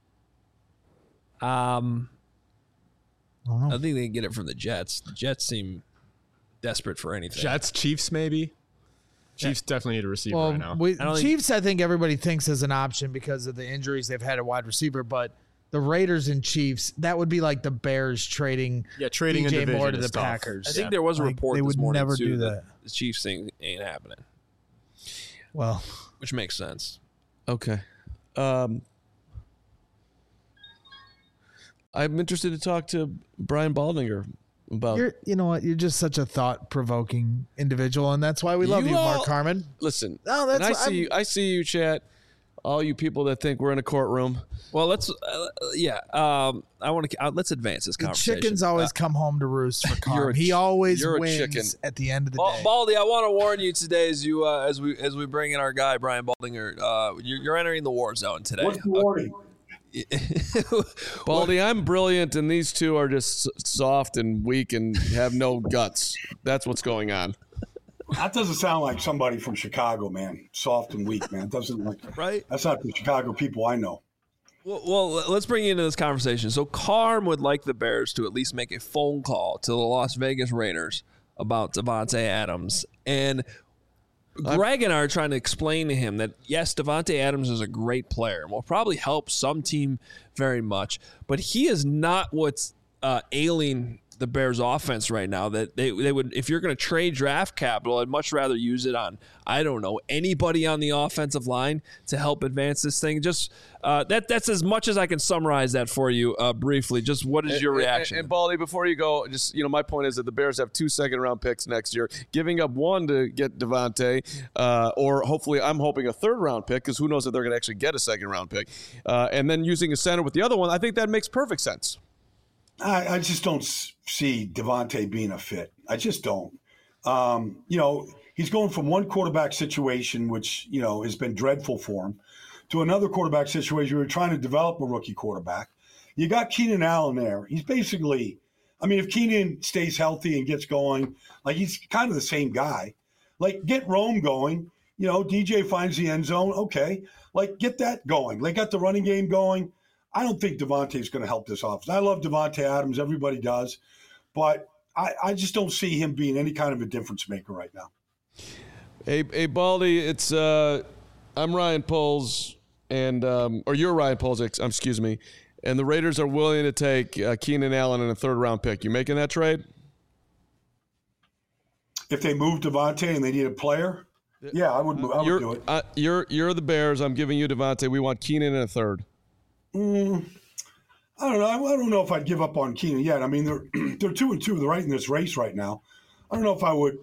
Um, I don't know. I think they can get it from the Jets. The Jets seem desperate for anything. Jets, Chiefs, maybe. Chiefs definitely need a receiver Well, right now. we, I don't think- Chiefs, I think everybody thinks is an option because of the injuries they've had at wide receiver, but the Raiders and Chiefs, that would be like the Bears trading yeah, trading D in J division Moore to is the tough. Packers. I think Yeah. there was a Like, report they this would morning never too do that that. the Chiefs thing ain't happening, Well, which makes sense. Okay. Um, I'm interested to talk to Brian Baldinger about. you're, you know what? You're just such a thought-provoking individual, and that's why we love You you, Mark all- Carmen. Listen, No, that's and I what see I'm- you. I see you, chat. All you people that think we're in a courtroom. Well, let's uh, yeah. Um, I want to uh, let's advance this The conversation. chickens always Uh, come home to roost for You're Carm. a He ch- always you're a wins chicken. at the end of the Bal- day. Baldy, I want to warn you today as you uh, as we as we bring in our guy Brian Baldinger. Uh, you're, you're entering the war zone today. What's the warning? Baldy, I'm brilliant, and these two are just s- soft and weak and have no guts. That's what's going on. That doesn't sound like somebody from Chicago, man. Soft and weak, man. Doesn't like Right? That's not the Chicago people I know. Well, well, let's bring you into this conversation. So, Carm would like the Bears to at least make a phone call to the Las Vegas Raiders about Devontae Adams. And Greg and I are trying to explain to him that, yes, Davante Adams is a great player and will probably help some team very much, but he is not what's uh, ailing the Bears offense right now. That they they would, if you're going to trade draft capital, I'd much rather use it on, I don't know, anybody on the offensive line to help advance this thing. Just uh, that that's as much as I can summarize that for you uh, briefly. Just what is your and, reaction? And, and Baldy, before you go, just, you know, my point is that the Bears have two second round picks next year. Giving up one to get Davante, uh, or hopefully I'm hoping a third round pick, because who knows if they're going to actually get a second round pick, uh, and then using a center with the other one, I think that makes perfect sense. I, I just don't see Davante being a fit. I just don't. Um, you know, he's going from one quarterback situation, which, you know, has been dreadful for him, to another quarterback situation where you're trying to develop a rookie quarterback. You got Keenan Allen there. He's basically, I mean, if Keenan stays healthy and gets going, like, he's kind of the same guy. Like, get Rome going. You know, D J finds the end zone. Okay. Like, get that going. They got the running game going. I don't think Davante is going to help this offense. I love Davante Adams. Everybody does. But I, I just don't see him being any kind of a difference maker right now. Hey, hey Baldy, it's uh, I'm Ryan Poles, and um, or you're Ryan Poles, ex- excuse me, and the Raiders are willing to take uh, Keenan Allen in a third-round pick. You making that trade? If they move Davante and they need a player, yeah, I would, I would you're, do it. Uh, you're you're the Bears. I'm giving you Davante. We want Keenan in a third. Mm, I don't know. I, I don't know if I'd give up on Keenan yet. I mean, they're they're two and two. They're right in this race right now. I don't know if I would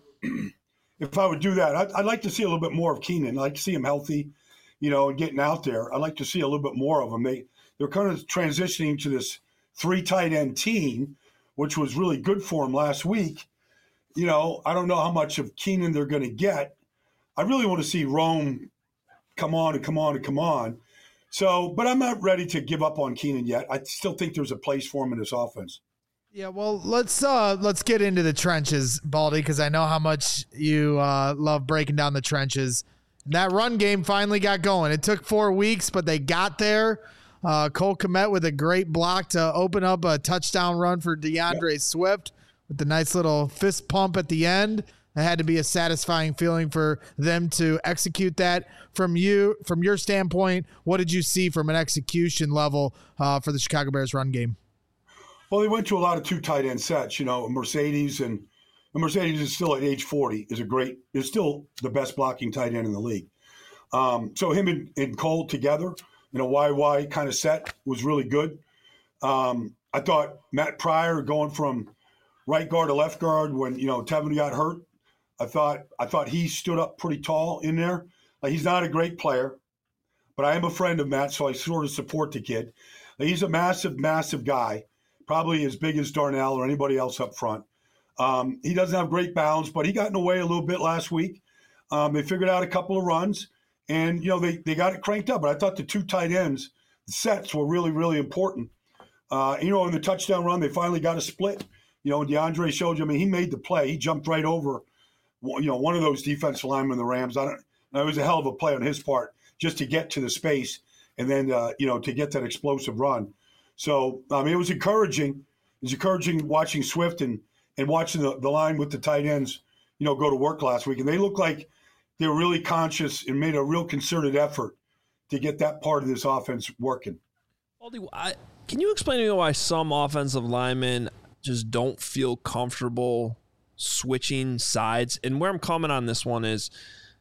if I would do that. I'd, I'd like to see a little bit more of Keenan. I'd like to see him healthy, you know, and getting out there. I'd like to see a little bit more of him. They they're kind of transitioning to this three tight end team, which was really good for him last week. You know, I don't know how much of Keenan they're going to get. I really want to see Rome come on and come on and come on. So, but I'm not ready to give up on Keenan yet. I still think there's a place for him in this offense. Yeah, well, let's uh, let's get into the trenches, Baldy, because I know how much you uh, love breaking down the trenches. And that run game finally got going. It took four weeks, but they got there. Uh, Cole Kmet with a great block to open up a touchdown run for DeAndre yep. Swift with the nice little fist pump at the end. It had to be a satisfying feeling for them to execute that. From you, from your standpoint, what did you see from an execution level uh, for the Chicago Bears run game? Well, they went to a lot of two tight end sets. You know, Mercedes and, and Mercedes is still at age forty is a great is still the best blocking tight end in the league. Um, so him and, and Cole together in a Y Y kind of set was really good. Um, I thought Matt Pryor going from right guard to left guard when you know Tevin got hurt. I thought I thought he stood up pretty tall in there. Like, he's not a great player, but I am a friend of Matt, so I sort of support the kid. Like, he's a massive, massive guy, probably as big as Darnell or anybody else up front. Um, he doesn't have great bounds, but he got in the way a little bit last week. Um, they figured out a couple of runs, and you know they they got it cranked up. But I thought the two tight ends, the sets were really, really important. Uh, you know, in the touchdown run, they finally got a split. You know, DeAndre showed you. I mean, he made the play. He jumped right over, you know, one of those defensive linemen, the Rams. I don't. It was a hell of a play on his part just to get to the space and then, uh, you know, to get that explosive run. So, I mean, it was encouraging. It was encouraging watching Swift and, and watching the, the line with the tight ends, you know, go to work last week. And they looked like they were really conscious and made a real concerted effort to get that part of this offense working. Baldy, I, can you explain to me why some offensive linemen just don't feel comfortable switching sides? And where I'm coming on this one is,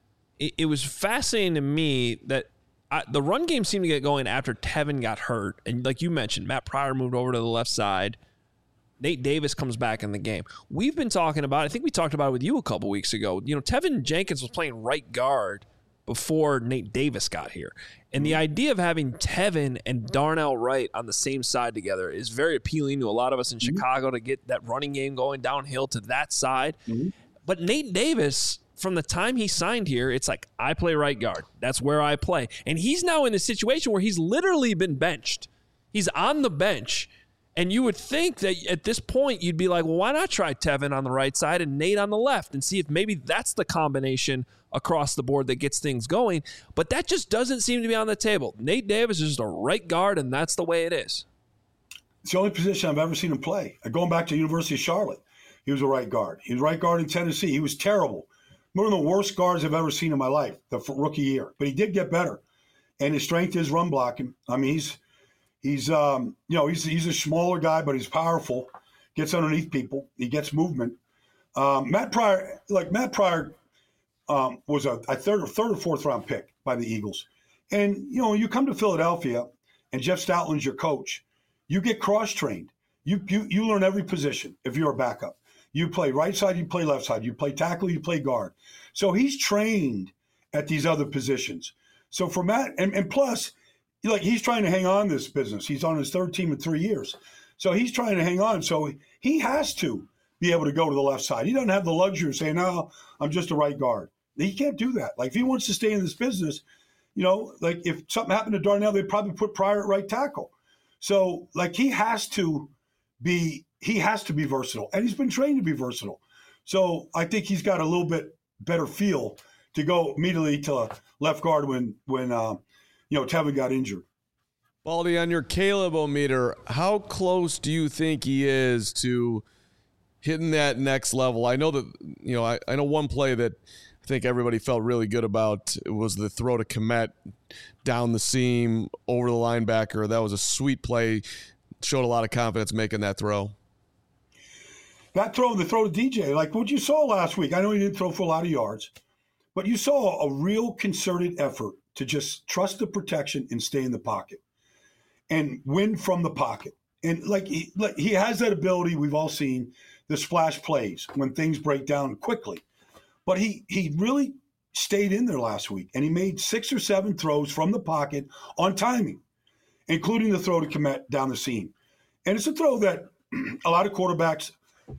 it was fascinating to me that I, the run game seemed to get going after Tevin got hurt. And like you mentioned, Matt Pryor moved over to the left side. Nate Davis comes back in the game. We've been talking about, I think we talked about it with you a couple weeks ago. You know, Tevin Jenkins was playing right guard before Nate Davis got here. And the idea of having Tevin and Darnell Wright on the same side together is very appealing to a lot of us in mm-hmm. Chicago to get that running game going downhill to that side. Mm-hmm. But Nate Davis, from the time he signed here, it's like, I play right guard. That's where I play. And he's now in a situation where he's literally been benched. He's on the bench. And you would think that at this point, you'd be like, well, why not try Tevin on the right side and Nate on the left and see if maybe that's the combination across the board that gets things going. But that just doesn't seem to be on the table. Nate Davis is just a right guard, and that's the way it is. It's the only position I've ever seen him play. Going back to University of Charlotte, he was a right guard. He was right guard in Tennessee. He was terrible. one of the worst guards I've ever seen in my life, the rookie year. But he did get better, and his strength is run blocking. I mean, he's he's um, you know he's he's a smaller guy, but he's powerful. Gets underneath people. He gets movement. Um, Matt Pryor, like Matt Pryor, um, was a, a third or third or fourth round pick by the Eagles, and you know you come to Philadelphia, and Jeff Stoutland's your coach. You get cross trained. You you you learn every position if you're a backup. You play right side, you play left side. You play tackle, you play guard. So he's trained at these other positions. So for Matt, and, and plus, like he's trying to hang on this business. He's on his third team in three years. So he's trying to hang on. So he has to be able to go to the left side. He doesn't have the luxury of saying, no, I'm just a right guard. He can't do that. Like if he wants to stay in this business, you know, like if something happened to Darnell, they'd probably put Pryor at right tackle. So like he has to be he has to be versatile, and he's been trained to be versatile. So I think he's got a little bit better feel to go immediately to left guard when when uh, you know Tevin got injured. Baldy, on your Caleb-o-meter, how close do you think he is to hitting that next level? I know that you know I, I know one play that I think everybody felt really good about was the throw to Kmet down the seam over the linebacker. That was a sweet play. Showed a lot of confidence making that throw. That throw, the throw to D J, like what you saw last week. I know he didn't throw for a lot of yards, but you saw a real concerted effort to just trust the protection and stay in the pocket and win from the pocket. And like he, like he has that ability we've all seen, the splash plays when things break down quickly. But he he really stayed in there last week, and he made six or seven throws from the pocket on timing, including the throw to Kmet down the seam. And it's a throw that a lot of quarterbacks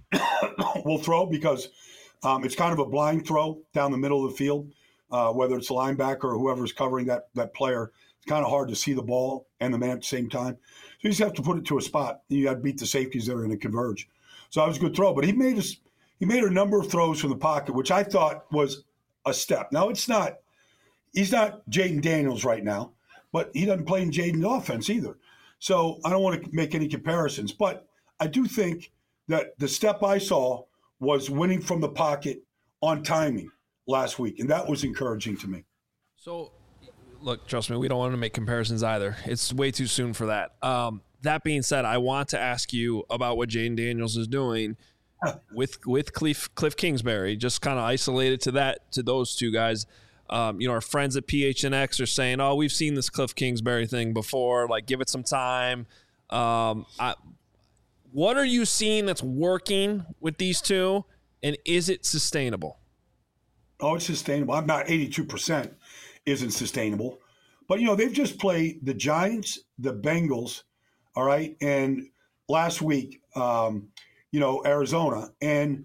will throw because um, it's kind of a blind throw down the middle of the field, uh, whether it's a linebacker or whoever's covering that that player. It's kind of hard to see the ball and the man at the same time. So you just have to put it to a spot. You got to beat the safeties that are going to converge. So that was a good throw. But he made, a, he made a number of throws from the pocket, which I thought was a step. Now, it's not – he's not Jaden Daniels right now, but he doesn't play in Jaden's offense either. So I don't want to make any comparisons. But I do think – that the step I saw was winning from the pocket on timing last week, and that was encouraging to me. So, look, trust me, we don't want to make comparisons either. It's way too soon for that. Um, that being said, I want to ask you about what Jaden Daniels is doing with with Cliff, Cliff Kingsbury, just kind of isolated to that to those two guys. Um, you know, our friends at P H N X are saying, oh, we've seen this Cliff Kingsbury thing before. Like, give it some time. Um, I What are you seeing that's working with these two, and is it sustainable? Oh, it's sustainable. I'm not eighty-two percent isn't sustainable. But, you know, they've just played the Giants, the Bengals, all right, and last week, um, you know, Arizona. And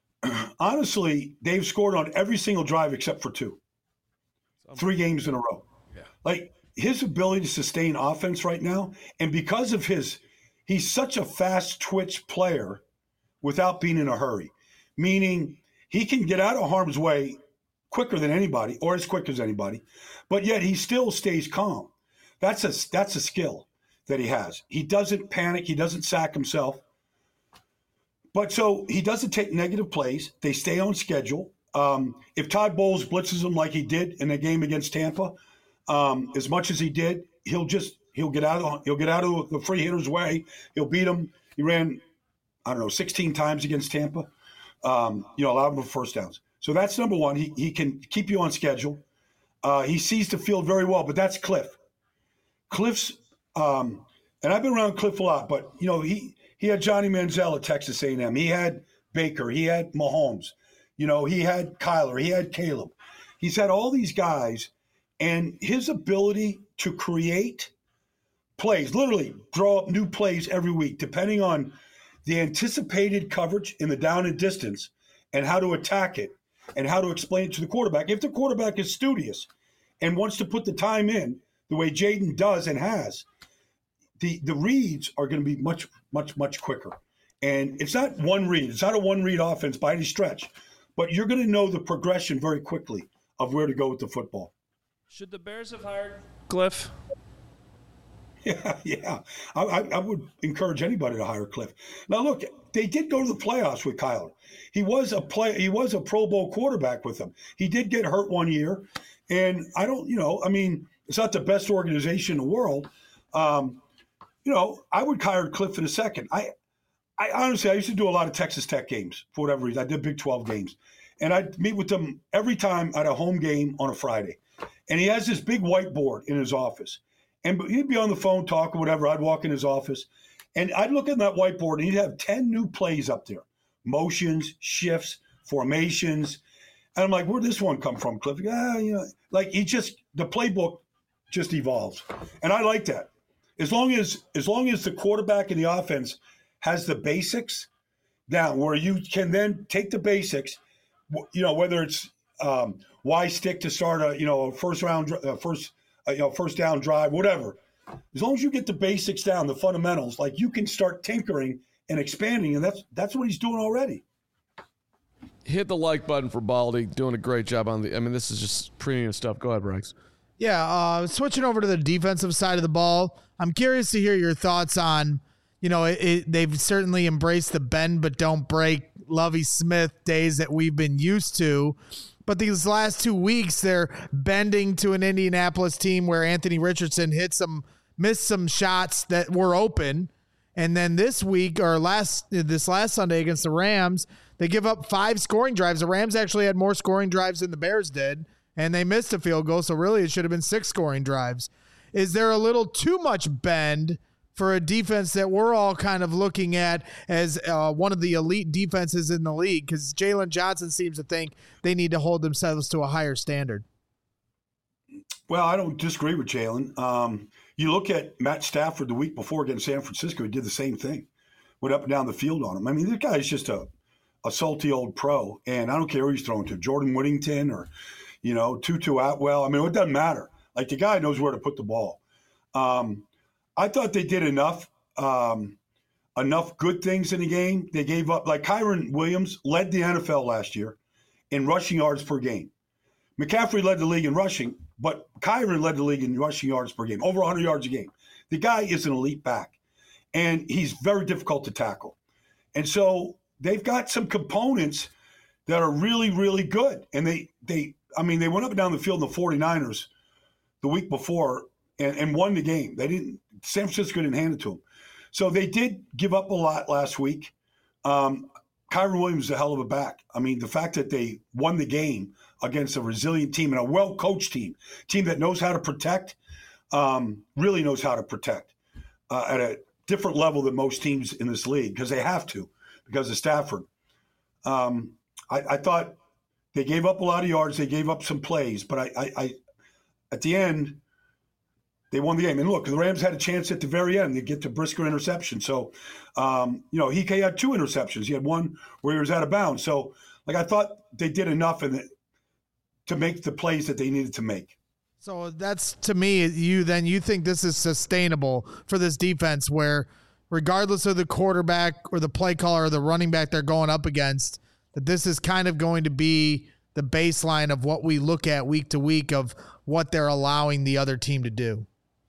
honestly, they've scored on every single drive except for two. Three games in a row. Yeah. Like, his ability to sustain offense right now, and because of his – he's such a fast twitch player without being in a hurry, meaning he can get out of harm's way quicker than anybody or as quick as anybody, but yet he still stays calm. That's a, that's a skill that he has. He doesn't panic. He doesn't sack himself. But so he doesn't take negative plays. They stay on schedule. Um, if Todd Bowles blitzes him like he did in the game against Tampa, um, as much as he did, he'll just – He'll get out of he'll get out of the free hitter's way. He'll beat him. He ran, I don't know, sixteen times against Tampa. Um, you know, allowed him for first downs. So that's number one. He he can keep you on schedule. Uh, he sees the field very well, but that's Cliff. Cliff's, um, and I've been around Cliff a lot, but you know he he had Johnny Manziel at Texas A and M. He had Baker. He had Mahomes. You know, he had Kyler. He had Caleb. He's had all these guys, and his ability to create plays, literally draw up new plays every week, depending on the anticipated coverage in the down and distance and how to attack it and how to explain it to the quarterback. If the quarterback is studious and wants to put the time in the way Jaden does and has, the, the reads are going to be much, much, much quicker. And it's not one read. It's not a one-read offense by any stretch. But you're going to know the progression very quickly of where to go with the football. Should the Bears have hired Cliff? Yeah, yeah. I, I, I would encourage anybody to hire Cliff. Now, look, they did go to the playoffs with Kyler. He was a play. He was a Pro Bowl quarterback with them. He did get hurt one year, and I don't. You know, I mean, it's not the best organization in the world. Um, you know, I would hire Cliff in a second. I, I honestly, I used to do a lot of Texas Tech games for whatever reason. I did Big twelve games, and I'd meet with them every time at a home game on a Friday. And he has this big whiteboard in his office. And he'd be on the phone talking, whatever. I'd walk in his office, and I'd look at that whiteboard, and he'd have ten new plays up there, motions, shifts, formations. And I'm like, where'd this one come from, Cliff? Yeah, you know, like he just the playbook just evolves, and I like that. As long as as long as the quarterback and the offense has the basics down, where you can then take the basics, you know, whether it's um, why stick to start a you know first round uh, first. Uh, you know, first down drive, whatever. As long as you get the basics down, the fundamentals, like you can start tinkering and expanding, and that's that's what he's doing already. Hit the like button for Baldy. Doing a great job on the. I mean, this is just premium stuff. Go ahead, Bryce. Yeah, uh, switching over to the defensive side of the ball, I'm curious to hear your thoughts on. You know, it, it, they've certainly embraced the bend but don't break Lovie Smith days that we've been used to. But these last two weeks, they're bending to an Indianapolis team where Anthony Richardson hit some, missed some shots that were open. And then this week, or last this last Sunday against the Rams, they give up five scoring drives. The Rams actually had more scoring drives than the Bears did, and they missed a field goal. So really, it should have been six scoring drives. Is there a little too much bend for a defense that we're all kind of looking at as uh, one of the elite defenses in the league? Because Jalen Johnson seems to think they need to hold themselves to a higher standard. Well, I don't disagree with Jalen. Um, you look at Matt Stafford the week before against San Francisco, he did the same thing. Went up and down the field on him. I mean, this guy's just a, a salty old pro, and I don't care who he's throwing to, Jordan Whittington or, you know, Tutu Atwell. I mean, it doesn't matter. Like, the guy knows where to put the ball. Um, I thought they did enough, um, enough good things in the game. They gave up, like Kyron Williams led the N F L last year in rushing yards per game. McCaffrey led the league in rushing, but Kyron led the league in rushing yards per game, over one hundred yards a game. The guy is an elite back, and he's very difficult to tackle. And so they've got some components that are really, really good. And they, they, I mean, they went up and down the field in the 49ers the week before and, and won the game. They didn't. San Francisco didn't hand it to them. So they did give up a lot last week. Um, Kyron Williams is a hell of a back. I mean, the fact that they won the game against a resilient team and a well-coached team, team that knows how to protect, um, really knows how to protect uh, at a different level than most teams in this league because they have to because of Stafford. Um, I, I thought they gave up a lot of yards. They gave up some plays. But I, I, I at the end – they won the game. And look, the Rams had a chance at the very end to get to Brisker interception. So, um, you know, he had two interceptions. He had one where he was out of bounds. So, like, I thought they did enough in the, to make the plays that they needed to make. So that's, to me, you then you think this is sustainable for this defense where regardless of the quarterback or the play caller or the running back they're going up against, that this is kind of going to be the baseline of what we look at week to week of what they're allowing the other team to do.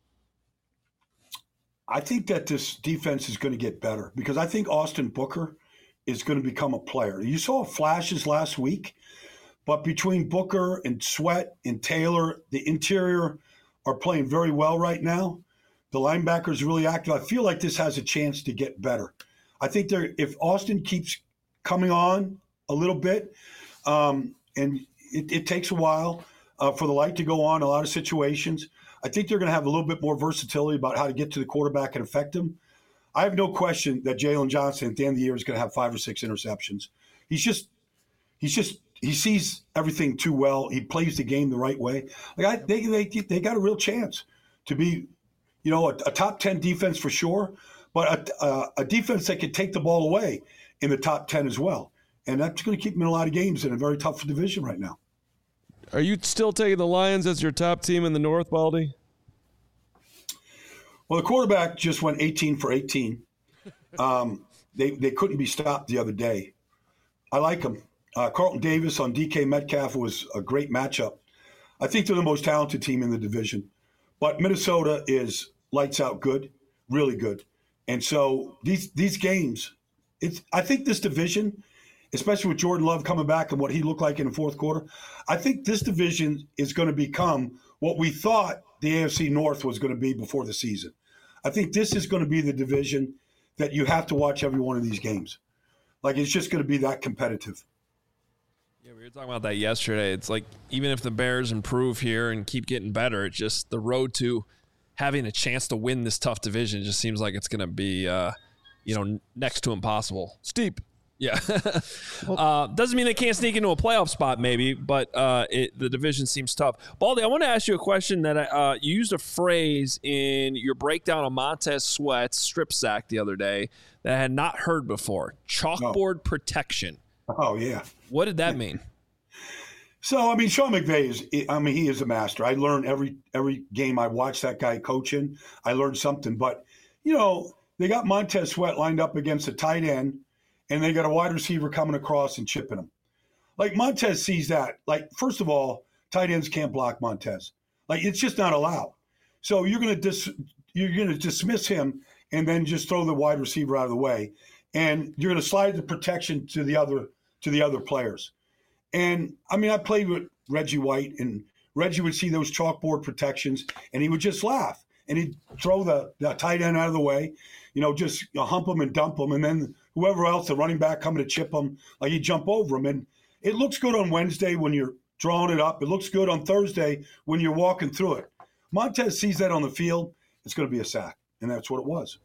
I think that this defense is going to get better because I think Austin Booker is going to become a player. You saw flashes last week, but between Booker and Sweat and Taylor, the interior are playing very well right now. The linebackers really active. I feel like this has a chance to get better. I think they're, if Austin keeps coming on a little bit, um, and it, it takes a while uh, for the light to go on in a lot of situations, I think they're going to have a little bit more versatility about how to get to the quarterback and affect him. I have no question that Jalen Johnson at the end of the year is going to have five or six interceptions. He's just, he's just, he sees everything too well. He plays the game the right way. Like I, they, they, they got a real chance to be, you know, a, a top ten defense for sure, but a, a, a defense that could take the ball away in the top ten as well. And that's going to keep them in a lot of games in a very tough division right now. Are you still taking the Lions as your top team in the North, Baldy? Well, the quarterback just went eighteen for eighteen. Um, they they couldn't be stopped the other day. I like them. Uh, Carlton Davis on D K Metcalf was a great matchup. I think they're the most talented team in the division. But Minnesota is lights out good, really good. And so these these games, it's I think this division, especially with Jordan Love coming back and what he looked like in the fourth quarter, I think this division is going to become what we thought the A F C North was going to be before the season. I think this is going to be the division that you have to watch every one of these games. Like, it's just going to be that competitive. Yeah, we were talking about that yesterday. It's like, even if the Bears improve here and keep getting better, it's just the road to having a chance to win this tough division just seems like it's going to be, uh, you know, next to impossible. Steep. Yeah. uh, doesn't mean they can't sneak into a playoff spot, maybe, but uh, it, the division seems tough. Baldy, I want to ask you a question that I, uh, you used a phrase in your breakdown of Montez Sweat's strip sack the other day that I had not heard before. Chalkboard oh. protection. Oh, yeah. What did that mean? So, I mean, Sean McVay is, I mean, he is a master. I learn every every game I watch that guy coaching. I learned something. But, you know, they got Montez Sweat lined up against a tight end, and they got a wide receiver coming across and chipping him. Like, Montez sees that. Like, first of all, tight ends can't block Montez. Like, it's just not allowed. So you're going to dis, you're going to dismiss him and then just throw the wide receiver out of the way, and you're going to slide the protection to the other to the other players. And I mean, I played with Reggie White, and Reggie would see those chalkboard protections, and he would just laugh, and he'd throw the, the tight end out of the way, you know, just you know, hump him and dump him, and then whoever else, the running back coming to chip him, like he'd jump over him. And it looks good on Wednesday when you're drawing it up. It looks good on Thursday when you're walking through it. Montez sees that on the field, it's going to be a sack, and that's what it was.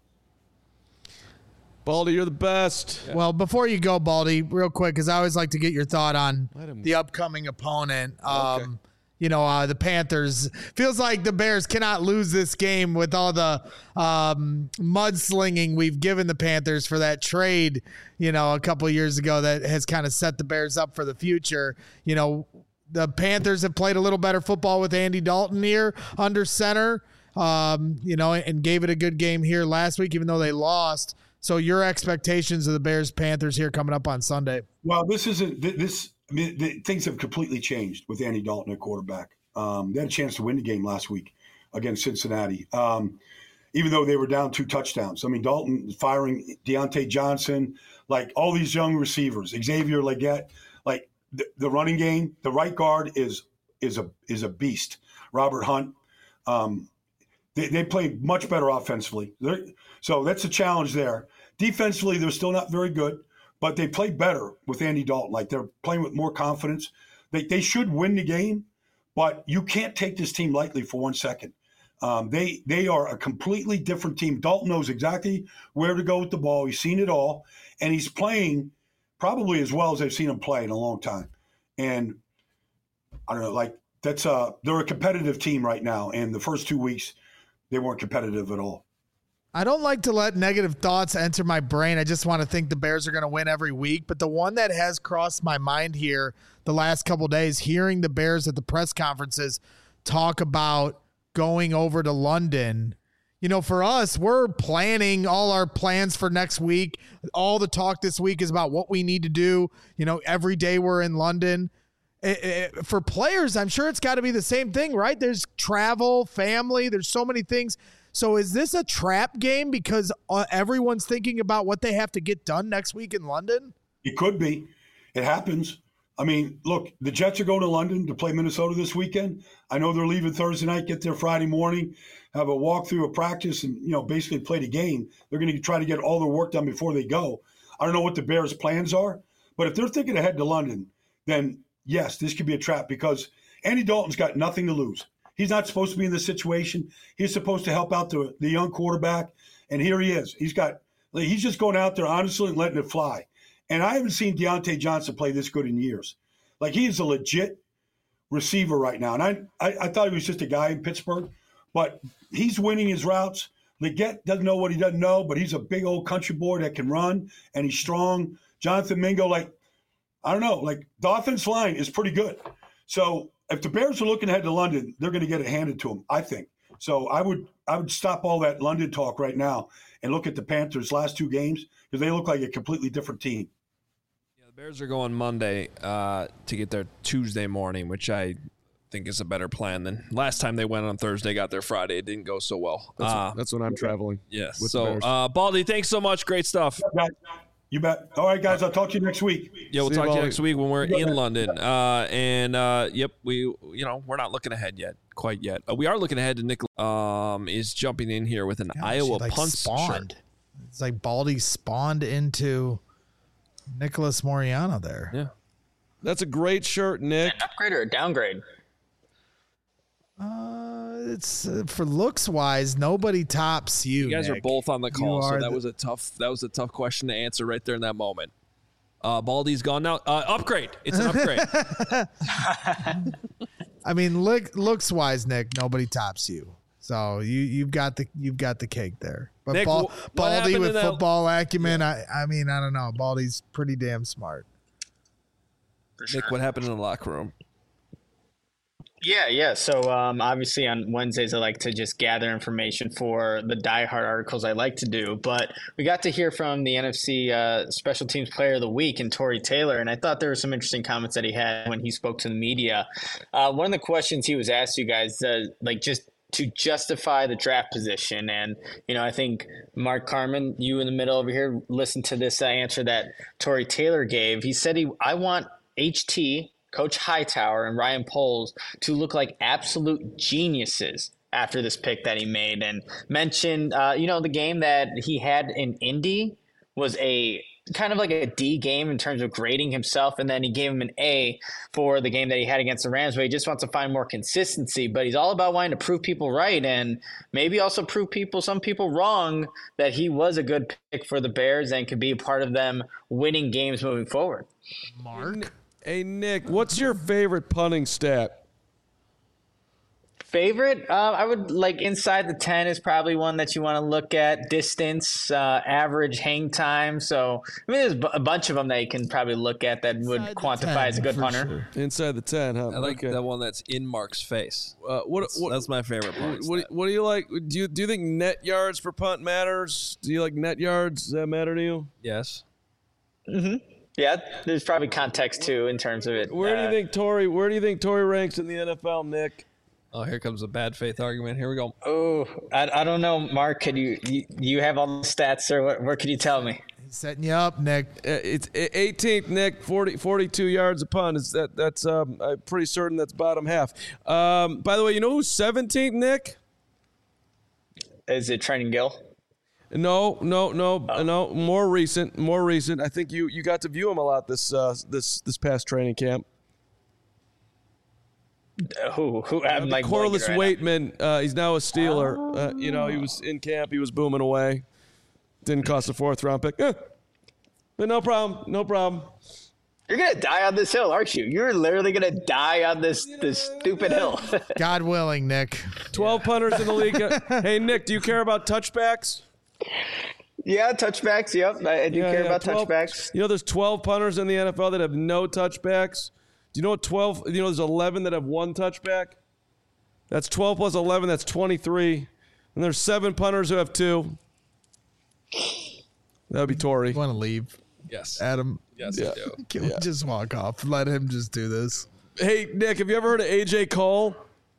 Baldy, you're the best. Yeah. Well, before you go, Baldy, real quick, because I always like to get your thought on the upcoming opponent. Um, okay. You know, uh, the Panthers. Feels like the Bears cannot lose this game with all the um, mudslinging we've given the Panthers for that trade, you know, a couple of years ago that has kind of set the Bears up for the future. You know, the Panthers have played a little better football with Andy Dalton here under center, um, you know, and gave it a good game here last week, even though they lost. So your expectations of the Bears-Panthers here coming up on Sunday? Well, this isn't this. I mean, the, things have completely changed with Andy Dalton at quarterback. Um, they had a chance to win the game last week against Cincinnati, um, even though they were down two touchdowns. I mean, Dalton firing Deontay Johnson, like all these young receivers, Xavier Legette, like the, the running game. The right guard is is a is a beast. Robert Hunt. Um, they they play much better offensively. They're, So that's a challenge there. Defensively, they're still not very good, but they play better with Andy Dalton. Like, they're playing with more confidence. They they should win the game, but you can't take this team lightly for one second. Um, they they are a completely different team. Dalton knows exactly where to go with the ball. He's seen it all, and he's playing probably as well as I've seen him play in a long time. And I don't know, like that's a they're a competitive team right now. And the first two weeks, they weren't competitive at all. I don't like to let negative thoughts enter my brain. I just want to think the Bears are going to win every week. But the one that has crossed my mind here the last couple of days, hearing the Bears at the press conferences talk about going over to London. You know, for us, we're planning all our plans for next week. All the talk this week is about what we need to do. You know, every day we're in London. It, it, for players, I'm sure it's got to be the same thing, right? There's travel, family. There's so many things. So is this a trap game because uh, everyone's thinking about what they have to get done next week in London? It could be. It happens. I mean, look, the Jets are going to London to play Minnesota this weekend. I know they're leaving Thursday night, get there Friday morning, have a walkthrough of practice, and, you know, basically play the game. They're going to try to get all their work done before they go. I don't know what the Bears' plans are, but if they're thinking ahead to London, then yes, this could be a trap because Andy Dalton's got nothing to lose. He's not supposed to be in this situation. He's supposed to help out the, the young quarterback, and here he is. He's got he's just going out there honestly and letting it fly. And I haven't seen Deontay Johnson play this good in years. Like, he's a legit receiver right now. And I, I, I thought he was just a guy in Pittsburgh, but he's winning his routes. Legette doesn't know what he doesn't know, but he's a big old country boy that can run, and he's strong. Jonathan Mingo, like, I don't know, like the offense line is pretty good. So if the Bears are looking ahead to London, they're going to get it handed to them, I think. So I would I would stop all that London talk right now and look at the Panthers' last two games because they look like a completely different team. Yeah, the Bears are going Monday uh, to get there Tuesday morning, which I think is a better plan than last time they went on Thursday, got there Friday. It didn't go so well. That's, uh, that's when I'm traveling. Yes. with the So, Bears. uh, Baldy, thanks so much. Great stuff. You bet. All right, guys. I'll talk to you next week. Yeah, we'll See you, talk to you Baldy. next week when we're in London. Uh, and uh, yep, we you know we're not looking ahead yet, quite yet. Uh, we are looking ahead to Nick. Um, is jumping in here with an Gosh, Iowa he, like, punt spawned. shirt. It's like Baldy spawned into Nicholas Moriano there. Yeah, That's a great shirt, Nick. An upgrade or a downgrade? Uh, it's uh, for looks wise, nobody tops you. You guys Nick. are both on the call, You so are that the- was a tough. That was a tough question to answer right there in that moment. Uh, Baldy's gone now. Uh, upgrade. It's an upgrade. I mean, look, looks wise, Nick, nobody tops you. So you you've got the you've got the cake there. But Nick, Bal- wh- what Baldy happened with in that- football acumen, I I mean, I don't know. Baldy's pretty damn smart. Nick, what happened in the locker room? Yeah, yeah. So um, obviously on Wednesdays, I like to just gather information for the diehard articles I like to do. But we got to hear from the N F C uh, Special Teams Player of the Week and Tory Taylor, and I thought there were some interesting comments that he had when he spoke to the media. Uh, one of the questions he was asked you guys, uh, like just to justify the draft position, and you know, I think Mark Carman, you in the middle over here, listen to this uh, answer that Tory Taylor gave. He said, "He, I want H T." Coach Hightower and Ryan Poles to look like absolute geniuses after this pick that he made, and mentioned, uh, you know, the game that he had in Indy was a kind of like a D game in terms of grading himself, and then he gave him an A for the game that he had against the Rams, but he just wants to find more consistency. But he's all about wanting to prove people right, and maybe also prove people, some people wrong, that he was a good pick for the Bears and could be a part of them winning games moving forward. Mark, Hey, Nick, what's your favorite punting stat? Favorite? Uh, I would like inside the ten is probably one that you want to look at. Distance, uh, average hang time. So, I mean, there's b- a bunch of them that you can probably look at that would Inside the quantify ten, as a good for punter. sure. Inside the ten, huh? I like Okay. that one that's in Mark's face. Uh, what, That's, what, that's my favorite part. what, what do you like? Do you do you think net yards for punt matters? Do you like net yards? Does that matter to you? Yes. Yeah, there's probably context too in terms of it. Where do you Uh, think Tory? Where do you think Tory ranks in the N F L, Nick? Oh, here comes a bad faith argument. Here we go. Oh, I, I don't know, Mark. Could you, you you have all the stats, or what? What could you tell me? he's setting you up, Nick. Uh, It's eighteenth, Nick. forty, forty-two yards a punt. Is that that's? Um, I'm pretty certain that's bottom half. Um, by the way, you know who's seventeenth, Nick? Is it Trenton Gill? No, no, no, no. More recent, more recent. I think you you got to view him a lot this uh, this this past training camp. Uh, who? Who? I'm like Corliss blanking right now. Waitman. Uh, he's now a Steeler. Uh, you know, he was in camp. He was booming away. Didn't cost a fourth round pick. Eh. But no problem. No problem. You're gonna die on this hill, aren't you? You're literally gonna die on this this stupid hill. God willing, Nick. twelve punters in the league. Hey, Nick, do you care about touchbacks? Yeah, touchbacks. Yep, I, I do Yeah, care yeah, about twelve touchbacks. You know, there's twelve punters in the N F L that have no touchbacks. Do you know what twelve? You know, there's eleven that have one touchback. That's twelve plus eleven. That's twenty-three. And there's seven punters who have two. That would be Tory. You want to leave, Yes. Adam? Yes, Yeah. I do. Can we just walk off? Let him just do this. Hey, Nick, have you ever heard of A J Cole?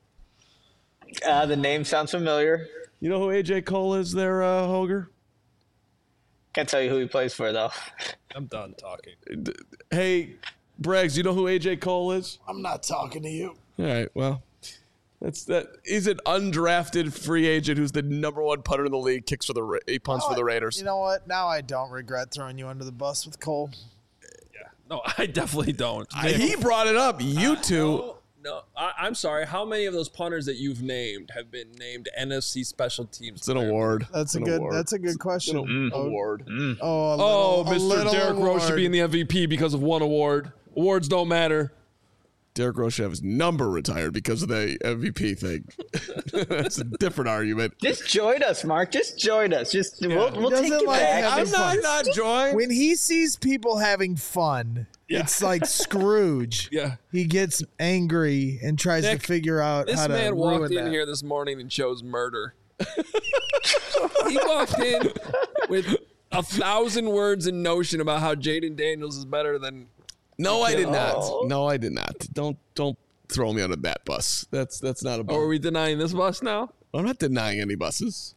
Uh, the name sounds familiar. You know who A J Cole is there, uh, Hoger? Can't tell you who he plays for though. I'm done talking. Hey, Braggs, you know who A J Cole is? I'm not talking to you. All right, well, that's that. He's an undrafted free agent who's the number one punter in the league. Kicks for the Ra- he punts for the Raiders. You know what? Now I don't regret throwing you under the bus with Cole. No, I definitely don't. I- he brought it up. You two. No, no I, I'm sorry. How many of those punters that you've named have been named N F C Special Teams? It's an Player? award. That's a It's an good. award. That's a good question. It's an Oh, award. oh, a little, Oh, a Mister little Derrick Rose should be in the M V P because of one award. Awards don't matter. Derrick Rose should have his number retired because of the M V P thing. That's a different argument. Just join us, Mark. Just join us. Just we'll, we'll take doesn't you like back. having I'm not fun. not joined. When he sees people having fun, it's like Scrooge. Yeah. He gets angry and tries Nick, to figure out This how to man ruin walked in that. here this morning and chose murder. He walked in with a thousand words in notion about how Jaden Daniels is better than. No, I did Oh. not. No, I did not. Don't don't throw me under that bus. That's that's not a bus. Or are we denying this bus now? I'm not denying any buses.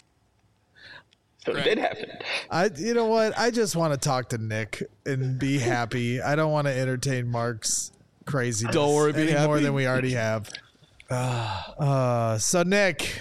So it did happen. I, you know what? I just want to talk to Nick and be happy. I don't want to entertain Mark's crazy. Don't worry, be any happy. more than we already have. Uh, so Nick,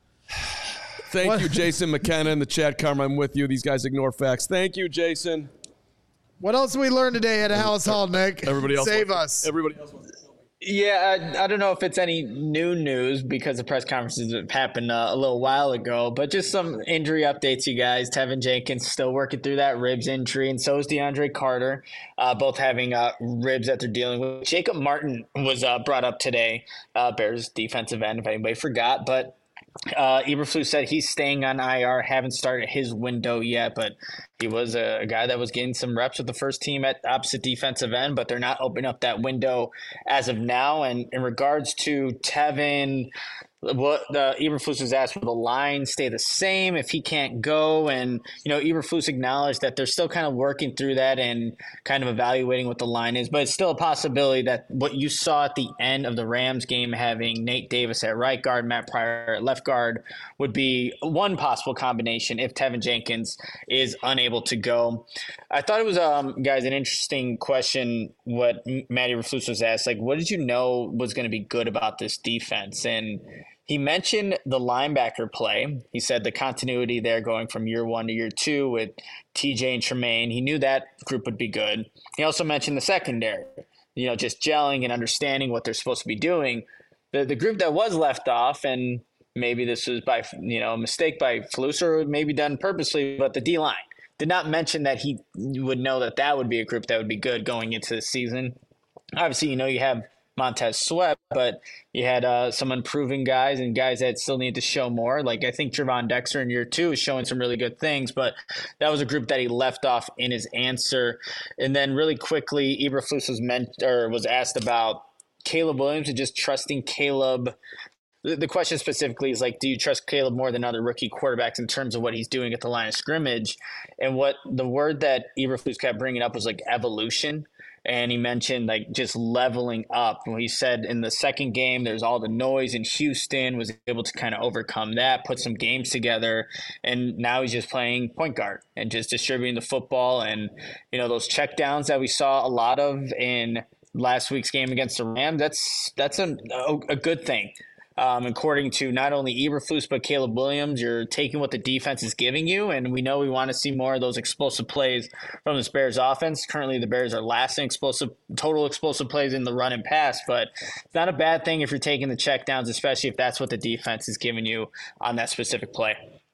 thank what? you, Jason McKenna in the chat. Carm, I'm with you. These guys ignore facts. Thank you, Jason. What else did we learn today at Hallis Hall, Nick? Everybody else, save wants, us. Everybody else. Wants Yeah, I, I don't know if it's any new news because the press conferences have happened uh, a little while ago, but just some injury updates, you guys. Tevin Jenkins still working through that ribs injury, and so is DeAndre Carter, uh, both having uh, ribs that they're dealing with. Jacob Martin was uh, brought up today, uh, Bears defensive end, if anybody forgot, but Uh, Eberflus said he's staying on I R, haven't started his window yet, but he was a, a guy that was getting some reps with the first team at opposite defensive end, but they're not opening up that window as of now. And in regards to Tevin, what the Eberflus was asked, will the line stay the same if he can't go? And, you know, Eberflus acknowledged that they're still kind of working through that and kind of evaluating what the line is, but it's still a possibility that what you saw at the end of the Rams game, having Nate Davis at right guard, Matt Pryor at left guard, would be one possible combination if Tevin Jenkins is unable to go. I thought it was, um, guys, an interesting question what Matt Eberflus was asked, like, what did you know was going to be good about this defense? And he mentioned the linebacker play. He said the continuity there going from year one to year two with T J and Tremaine. He knew that group would be good. He also mentioned the secondary, you know, just gelling and understanding what they're supposed to be doing. The the group that was left off, and maybe this was by, you know, a mistake by Flus or maybe done purposely, but the D-line did not mention that he would know that that would be a group that would be good going into the season. Obviously, you know, you have Montez Sweat, but you had uh, some improving guys and guys that still need to show more. Like I think Trevon Dexter in year two is showing some really good things, but that was a group that he left off in his answer. And then really quickly, Eberflus was meant or was asked about Caleb Williams and just trusting Caleb. The, the question specifically is like, do you trust Caleb more than other rookie quarterbacks in terms of what he's doing at the line of scrimmage? And what the word that Eberflus kept bringing up was like evolution. And he mentioned like just leveling up. He said in the second game, there's all the noise in Houston, was able to kind of overcome that, put some games together. And now he's just playing point guard and just distributing the football. And, you know, those check downs that we saw a lot of in last week's game against the Rams, that's, that's a, a good thing. Um, according to not only Eberflus but Caleb Williams, you're taking what the defense is giving you, and we know we want to see more of those explosive plays from this Bears offense. Currently, the Bears are last in explosive, total explosive plays in the run and pass, but it's not a bad thing if you're taking the checkdowns, especially if that's what the defense is giving you on that specific play.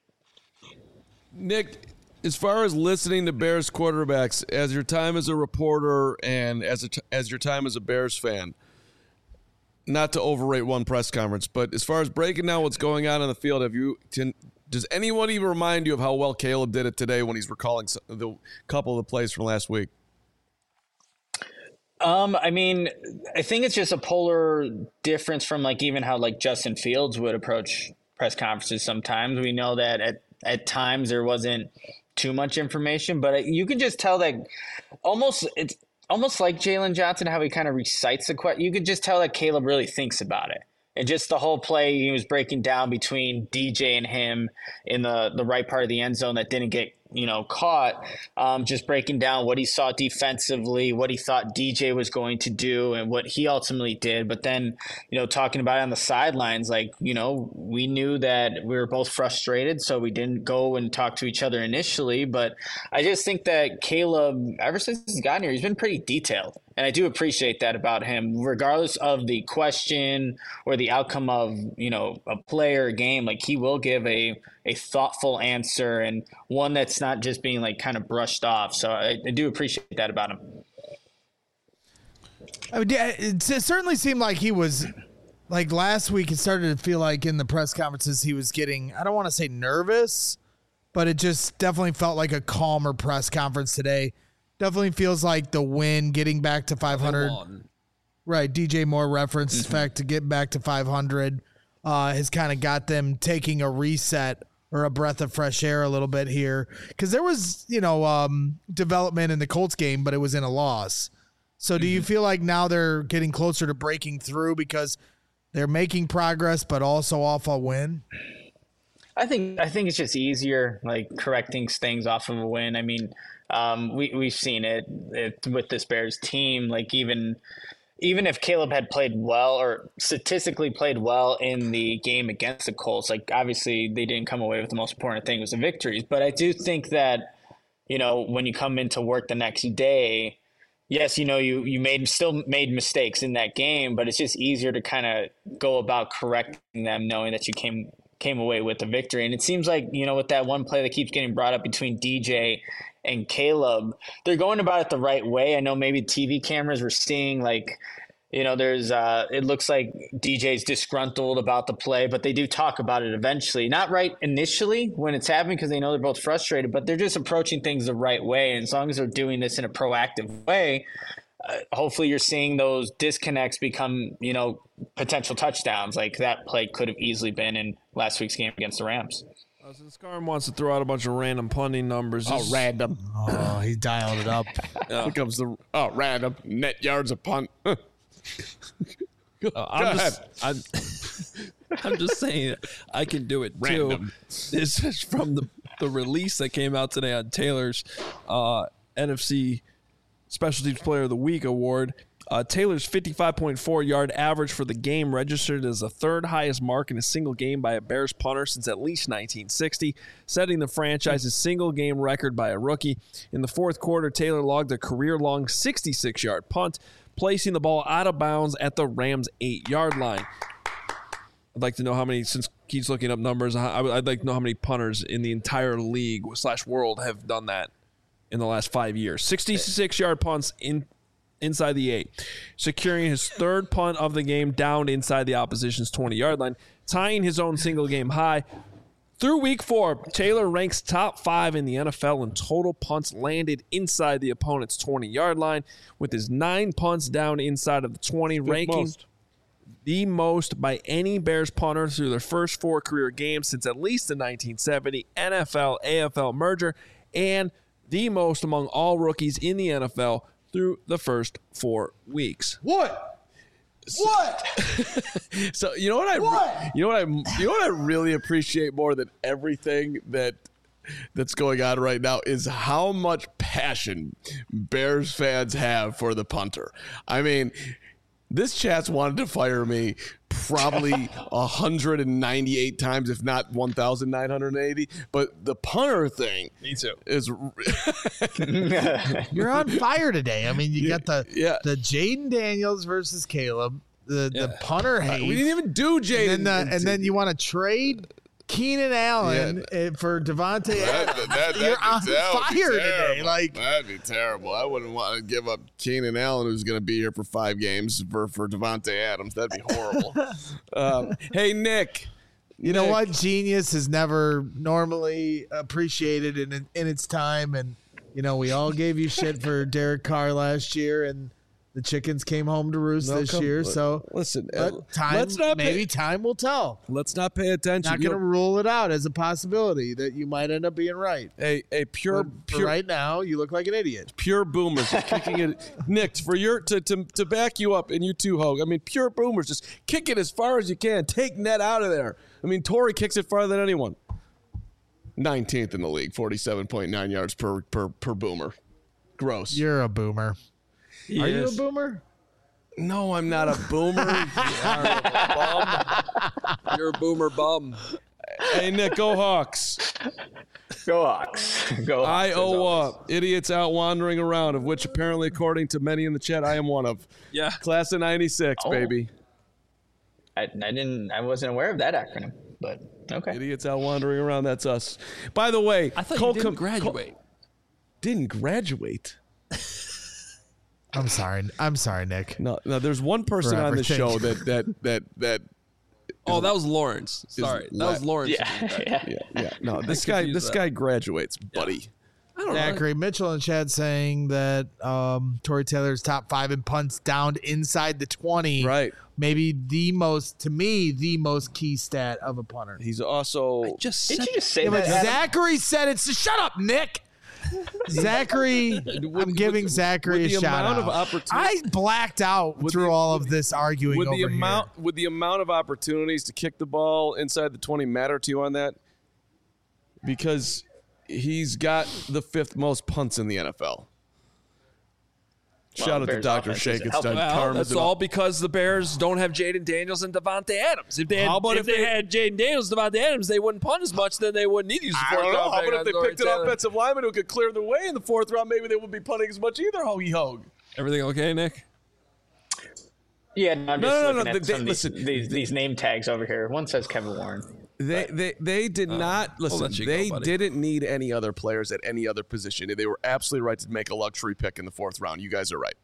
Nick, as far as listening to Bears quarterbacks, as your time as a reporter and as a, as your time as a Bears fan, not to overrate one press conference, but as far as breaking down what's going on in the field, have you? Can, does anyone even remind you of how well Caleb did it today when he's recalling the couple of the plays from last week? Um, I mean, I think it's just a polar difference from like even how like Justin Fields would approach press conferences. Sometimes we know that at at times there wasn't too much information, but you can just tell that almost it's. Almost like Jalen Johnson, how he kind of recites the question. You could just tell that Caleb really thinks about it. And just the whole play he was breaking down between D J and him in the, the right part of the end zone that didn't get, you know, caught, um, just breaking down what he saw defensively, what he thought D J was going to do, and what he ultimately did. But then, you know, talking about it on the sidelines, like, you know, we knew that we were both frustrated, so we didn't go and talk to each other initially. But I just think that Caleb, ever since he's gotten here, he's been pretty detailed. And I do appreciate that about him, regardless of the question or the outcome of, you know, a play or a game. Like, he will give a, a thoughtful answer and one that's not just being, like, kind of brushed off. So I, I do appreciate that about him. I mean, it certainly seemed like he was, like, last week it started to feel like in the press conferences he was getting, I don't want to say nervous, but it just definitely felt like a calmer press conference today. Definitely feels like the win, getting back to five hundred. Right, D J Moore referenced the fact to get back to five hundred uh, has kind of got them taking a reset or a breath of fresh air a little bit here. Because there was, you know, um, development in the Colts game, but it was in a loss. So do you feel like now they're getting closer to breaking through because they're making progress, but also off a win? I think I think it's just easier, like correcting things off of a win. I mean, um, we we've seen it, it with this Bears team. Like even even if Caleb had played well or statistically played well in the game against the Colts, like obviously they didn't come away with the most important thing was the victories. But I do think that, you know, when you come into work the next day, yes, you know, you, you made still made mistakes in that game, but it's just easier to kind of go about correcting them knowing that you came came away with the victory. And it seems like, you know, with that one play that keeps getting brought up between D J and Caleb, they're going about it the right way. I know maybe T V cameras were seeing like, you know, there's uh, it looks like D J's disgruntled about the play, but they do talk about it eventually. Not right initially when it's happening because they know they're both frustrated, but they're just approaching things the right way. And as long as they're doing this in a proactive way, uh, hopefully you're seeing those disconnects become, you know, potential touchdowns. Like that play could have easily been in last week's game against the Rams. Uh, so Scarm wants to throw out a bunch of random punting numbers. Oh, random. Oh, he dialed it up. Yeah. Here comes the oh random net yards a punt. uh, I'm just I'm, I'm just saying I can do it Random. too. This is from the, the release that came out today on Taylor's uh, N F C Special Teams Player of the Week award. Uh, Taylor's fifty-five point four yard average for the game registered as the third highest mark in a single game by a Bears punter since at least nineteen sixty, setting the franchise's single game record by a rookie. In the fourth quarter, Taylor logged a career-long sixty-six yard punt, placing the ball out of bounds at the Rams' eight-yard line. I'd like to know how many, since Keith's looking up numbers, I'd like to know how many punters in the entire league slash world have done that in the last five years. sixty-six yard punts in inside the eight, securing his third punt of the game down inside the opposition's twenty-yard line, tying his own single-game high. Through week four, Taylor ranks top five in the N F L in total punts landed inside the opponent's twenty-yard line, with his nine punts down inside of the twenty, Fifth ranking most. the most by any Bears punter through their first four career games since at least the nineteen seventy N F L A F L merger, and the most among all rookies in the N F L through the first four weeks. What? What? So you know what I What? you know what I you know what I really appreciate more than everything that that's going on right now is how much passion Bears fans have for the punter. I mean, this chat's wanted to fire me probably one hundred ninety-eight times, if not one thousand nine hundred eighty. But the punter thing Me too. is You're on fire today. I mean, you got the yeah. the Jaden Daniels versus Caleb, the Yeah. the punter hate. we didn't even do Jaden. and then, the, and then you want to trade Keenan Allen Yeah. uh, for Devontae That- Adams. that- that'd You're be- on that would be fire today. terrible. Like, That'd be terrible. I wouldn't want to give up Keenan Allen, who's going to be here for five games, for, for Devontae Adams. That'd be horrible. um, hey, Nick. you know Nick. what? Genius is never normally appreciated in in its time, and you know we all gave you shit for Derek Carr last year, and the chickens came home to roost No, this come- year. li- So listen, but uh, time, let's not maybe pay- time will tell. Let's not pay attention. Not You going to know, rule it out as a possibility that you might end up being right. a a pure But for pure right now, you look like an idiot. pure boomers just kicking it. Nick, for your to, to to back you up, and you too, Hogue. I mean, pure boomers just kick it as far as you can. Take net out of there. I mean, Torrey kicks it farther than anyone. nineteenth in the league, forty-seven point nine yards per per per boomer. Gross. You're a boomer. He Are you a is. boomer? No, I'm not a boomer. You're a boomer bum. Hey, Nick, go Hawks. Go Hawks. Go Hawks. as always. Iowa, idiots out wandering around, of which apparently, according to many in the chat, I am one of. Yeah. Class of ninety-six, Oh. baby. I, I didn't. I wasn't aware of that acronym, but okay. Idiots out wandering around, that's us. By the way, I thought Cole you didn't Com- graduate. Cole- didn't graduate? I'm sorry. I'm sorry, Nick. No, no. There's one person For on the everything. show that that that that. Oh, that was Lawrence. Sorry. That was la- Lawrence. Yeah, yeah. Yeah, yeah. No, this guy, confused this that. guy graduates, buddy. I don't know. Zachary Mitchell in chat saying that um, Torrey Taylor's top five in punts down inside the twenty. Right. Maybe the most, to me, the most key stat of a punter. He's also Just Did said you just say Yeah, but that? Adam? Zachary said it. So shut up, Nick. Zachary, I'm giving with, Zachary with a shout amount out. Of opportunity, I blacked out through the, all of this arguing with over the amount, here. With the amount of opportunities to kick the ball inside the twenty matter to you on that? Because he's got the fifth most punts in the N F L. Well, Shout out to Bears Doctor offense Shake. isn't It's helping. done. Well, that's all because the Bears don't have Jaden Daniels and Devontae Adams. If they had, How about if if they, they- had Jaden Daniels and Devontae Adams, they wouldn't punt as much. Then they wouldn't need to use the I fourth don't know. round How pick about if on they Corey picked an Taylor. offensive lineman who could clear the way in the fourth round? Maybe they wouldn't be punting as much either. Hoagie Hogue. Everything okay, Nick? Yeah, no, I'm No, just no, no, looking no, at they- some of listen, these, these, these name tags over here. One says Kevin Warren. They they they did not listen. let you go, They buddy. didn't need any other players at any other position. They were absolutely right to make a luxury pick in the fourth round. You guys are right.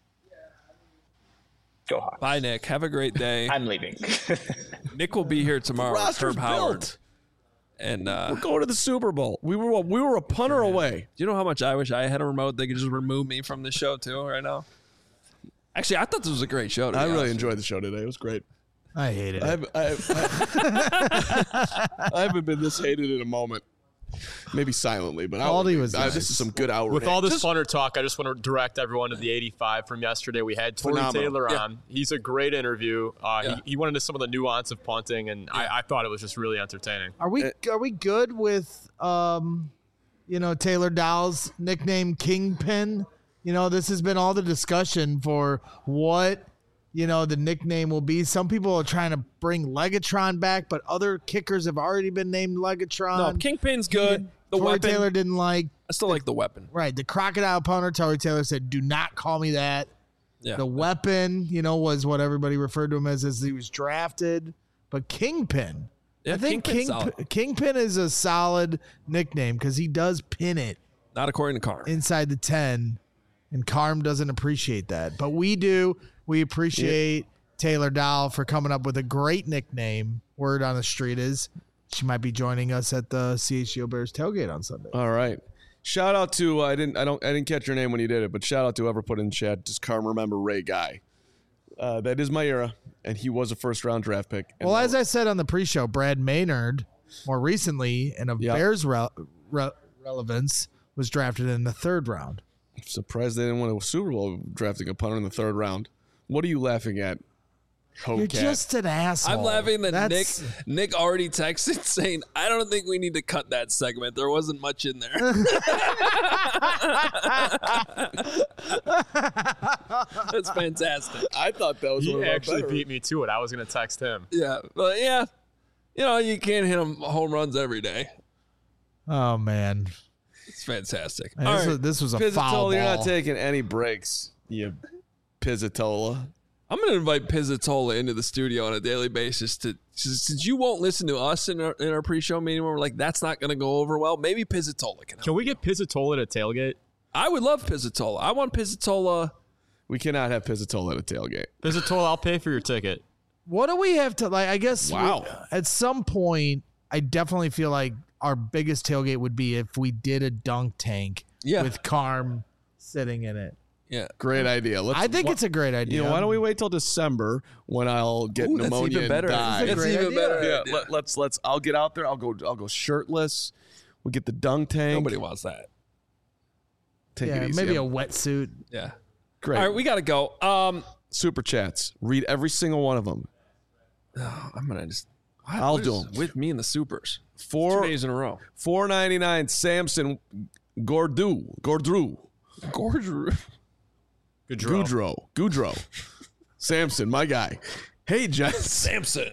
Go Hawks. Bye, Nick. Have a great day. I'm leaving. Nick will be here tomorrow. with Roster's Herb Howard. built. And uh, We're going to the Super Bowl. We were we were a punter away. do you know how much I wish I had a remote that could just remove me from the show too right now? Actually, I thought this was a great show. to I be really honest. enjoyed the show today. It was great. I hate it. I haven't, I, I, I haven't been this hated in a moment. Maybe silently, but I, Aldi was I, nice. this is some good outrage. With all this punter talk, I just want to direct everyone to the eighty-five from yesterday. We had Tory Phenomenal. Taylor Yeah. on. He's a great interview. Uh, Yeah. he, he went into some of the nuance of punting, and I, I thought it was just really entertaining. Are we are we good with um, you know, Taylor Dowell's nickname Kingpin? You know, this has been all the discussion for what, you know, the nickname will be. Some people are trying to bring Legatron back, but other kickers have already been named Legatron. No, Kingpin's good. The Tory weapon. Taylor didn't like I still like the weapon. right the crocodile punter. Tory Taylor said, "Do not call me that." Yeah. The weapon, you know, was what everybody referred to him as as he was drafted. But Kingpin, Yeah, I think Kingpin's King, solid. Kingpin is a solid nickname because he does pin it Not according to Carr. inside the ten, and Carm doesn't appreciate that. But we do. We appreciate Taylor Dowell for coming up with a great nickname. Word on the street is she might be joining us at the C H G O Bears tailgate on Sunday. All right. Shout out to uh, I didn't I don't I didn't catch your name when you did it, but shout out to whoever put in chat. Just Carm remember Ray Guy. Uh, that is my era, and he was a first round draft pick. And Well, as I said on the pre-show, Brad Maynard, more recently, in a Yep. Bears re- re- relevance, was drafted in the third round. I'm surprised they didn't win a Super Bowl drafting a punter in the third round. What are you laughing at? You're Hocat? just an asshole. I'm laughing that That's- Nick Nick already texted saying, I don't think we need to cut that segment. There wasn't much in there. That's fantastic. I thought that was He one of our actually better- beat me to it. I was going to text him. Yeah. But yeah, you know, you can't hit him home runs every day. Oh man, It's fantastic. Man, All this, right. was, this was a Pizzatola, foul you're ball. not taking any breaks, you Pizzatola. I'm going to invite Pizzatola into the studio on a daily basis to since since you won't listen to us in our, in our pre-show meeting where we're like, that's not going to go over well. Maybe Pizzatola can help. Can we get Pizzatola to tailgate? I would love Pizzatola. I want Pizzatola. We cannot have Pizzatola at a tailgate. Pizzatola, I'll pay for your ticket. What do we have to like? I guess we- Wow. at some point, I definitely feel like our biggest tailgate would be if we did a dunk tank Yeah. with Carm sitting in it. Yeah. Great idea. Let's, I think it's a great idea. You know, why don't we wait till December when I'll get Ooh, that's pneumonia even better. and die? That's great even idea. better. Yeah, idea. let, let's let's. I'll get out there. I'll go. I'll go shirtless. We'll get the dunk tank. Nobody wants that. Take Yeah, it easy. maybe a I'm- wetsuit. Yeah. Great. All right, we got to go. Um, Super chats. Read every single one of them. I'm gonna just. I'll what do is 'em. with me in the supers. Four Two days in a row. four ninety nine. Samson Gordu Gordru Gorgeous. Goudreau. Goudreau Goudreau Samson, my guy. Hey Jets. Samson.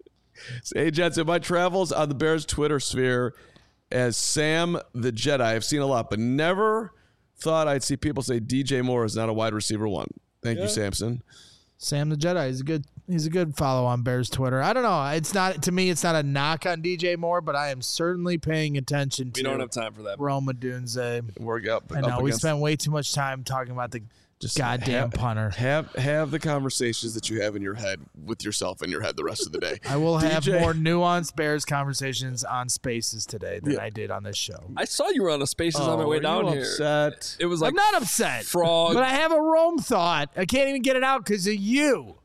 Hey Jets. In my travels on the Bears Twitter sphere as Sam the Jedi, I've seen a lot, but never thought I'd see people say D J Moore is not a wide receiver one. Thank you, Samson. Sam the Jedi is a good. He's a good follow on Bears Twitter. I don't know. It's not to me. It's not a knock on D J Moore, but I am certainly paying attention to. We don't have time for that. Roma Dunze. We're up. I up know we against- spent way too much time talking about the Just goddamn have, punter. Have have the conversations that you have in your head with yourself in your head the rest of the day. I will have D J more nuanced Bears conversations on Spaces today than Yeah. I did on this show. I saw you were on a Spaces on my Oh, way are down you here. upset? It was like I'm not upset, frog. but I have a Rome thought. I can't even get it out because of you.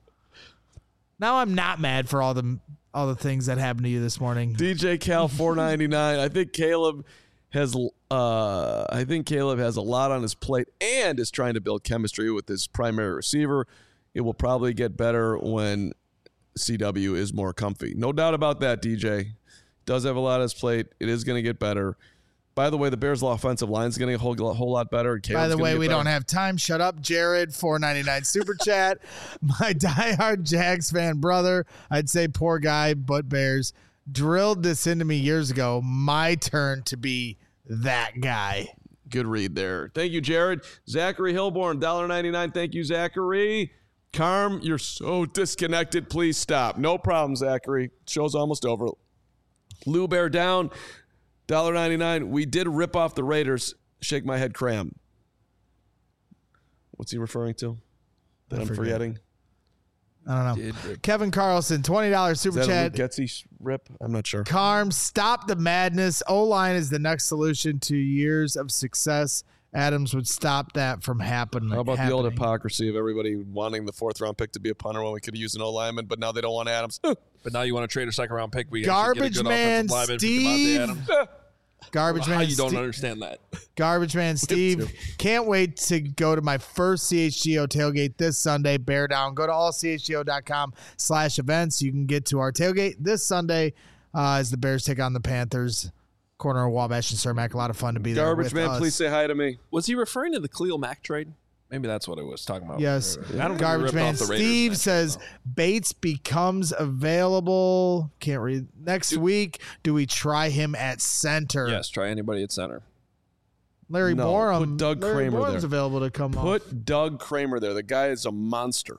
Now I'm not mad for all the all the things that happened to you this morning. D J Cal four ninety-nine. I think Caleb has Uh, I think Caleb has a lot on his plate and is trying to build chemistry with his primary receiver. It will probably get better when C W is more comfy. No doubt about that, D J. Does have a lot on his plate. It is going to get better. By the way, the Bears' offensive line is going to get a whole, whole lot better. By the way, we better. don't have time. Shut up, Jared. four ninety-nine super chat. My diehard Jags fan brother, I'd say poor guy, but Bears, drilled this into me years ago. My turn to be that guy. Good read there. Thank you, Jared. Zachary Hilborn, one dollar ninety-nine. Thank you, Zachary. Carm, you're so disconnected. Please stop. No problem, Zachary. Show's almost over. Lou Bear down. one dollar ninety-nine. We did rip off the Raiders. Shake my head, cram. What's he referring to? That I I'm forget. forgetting? I don't know. Kevin Carlson, twenty dollars super is that chat. A Luke Getsy rip? I'm not sure. Carm, stop the madness. O-line is the next solution to years of success. Adams would stop that from happening. How about happening. the old hypocrisy of everybody wanting the fourth round pick to be a punter when we could have used an O-lineman, but now they don't want Adams. But now you want to trade a second round pick. We Garbage man Steve. Garbage How man you don't Steve. understand that. Garbage man Steve. Can't wait to go to my first C H G O tailgate this Sunday. Bear down. Go to all C H G O dot com slash events. You can get to our tailgate this Sunday uh, as the Bears take on the Panthers. Corner of Wabash and Cermak. A lot of fun to be there. Garbage with man, us. please say hi to me. Was he referring to the Khalil Mack trade? Maybe that's what it was talking about. Yes. I don't Garbage man Steve says Bates becomes available. Can't read. Next Dude. week, do we try him at center? Yes, try anybody at center. Larry no, Borum. Put Doug Larry Kramer Borum's there. available to come Put off. Doug Kramer there. The guy is a monster.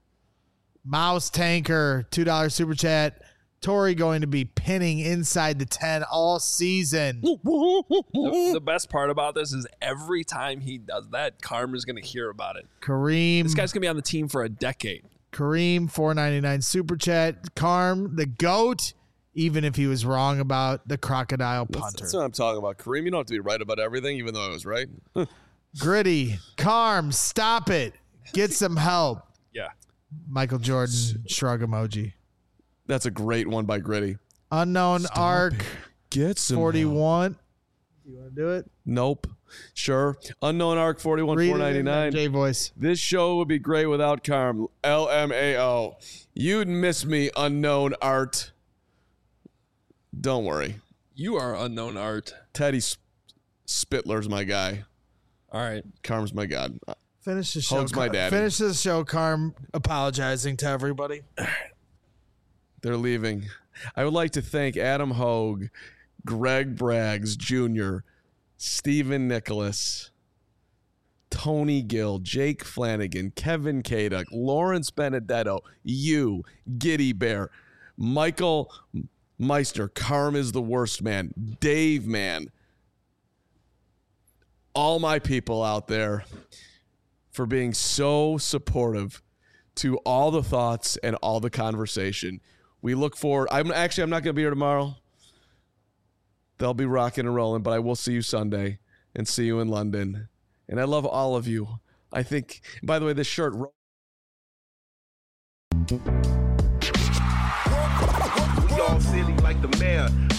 Mouse Tanker, two dollars super chat. Torrey going to be pinning inside the ten all season. The, the best part about this is every time he does that, Karma's going to hear about it. Kareem. This guy's going to be on the team for a decade. Kareem, four ninety-nine super chat. Carm, the GOAT, even if he was wrong about the crocodile punter. That's, that's what I'm talking about. Kareem, you don't have to be right about everything, even though I was right. Gritty. Carm, stop it. Get some help. Yeah. Michael Jordan, shrug emoji. That's a great one by Gritty. Unknown Stop Arc. it. Get some forty-one. help. You want to do it? Nope. Sure. Unknown Arc forty-one four ninety-nine. J voice. This show would be great without Carm. L M A O. You'd miss me, Unknown Art. Don't worry. You are Unknown Art. Teddy Sp- Spittler's my guy. All right. Carm's my god. Finish the show. Hogs my daddy. Finish the show, Carm, apologizing to everybody. They're leaving. I would like to thank Adam Hogue, Greg Braggs Junior, Stephen Nicholas, Tony Gill, Jake Flanagan, Kevin Kaduk, Lawrence Benedetto, you, Giddy Bear, Michael Meister, Carm is the worst man, Dave Man, all my people out there for being so supportive to all the thoughts and all the conversation. We look forward. I'm actually, I'm not going to be here tomorrow. They'll be rocking and rolling, but I will see you Sunday and see you in London. And I love all of you. I think, by the way, this shirt. We all silly like the mayor.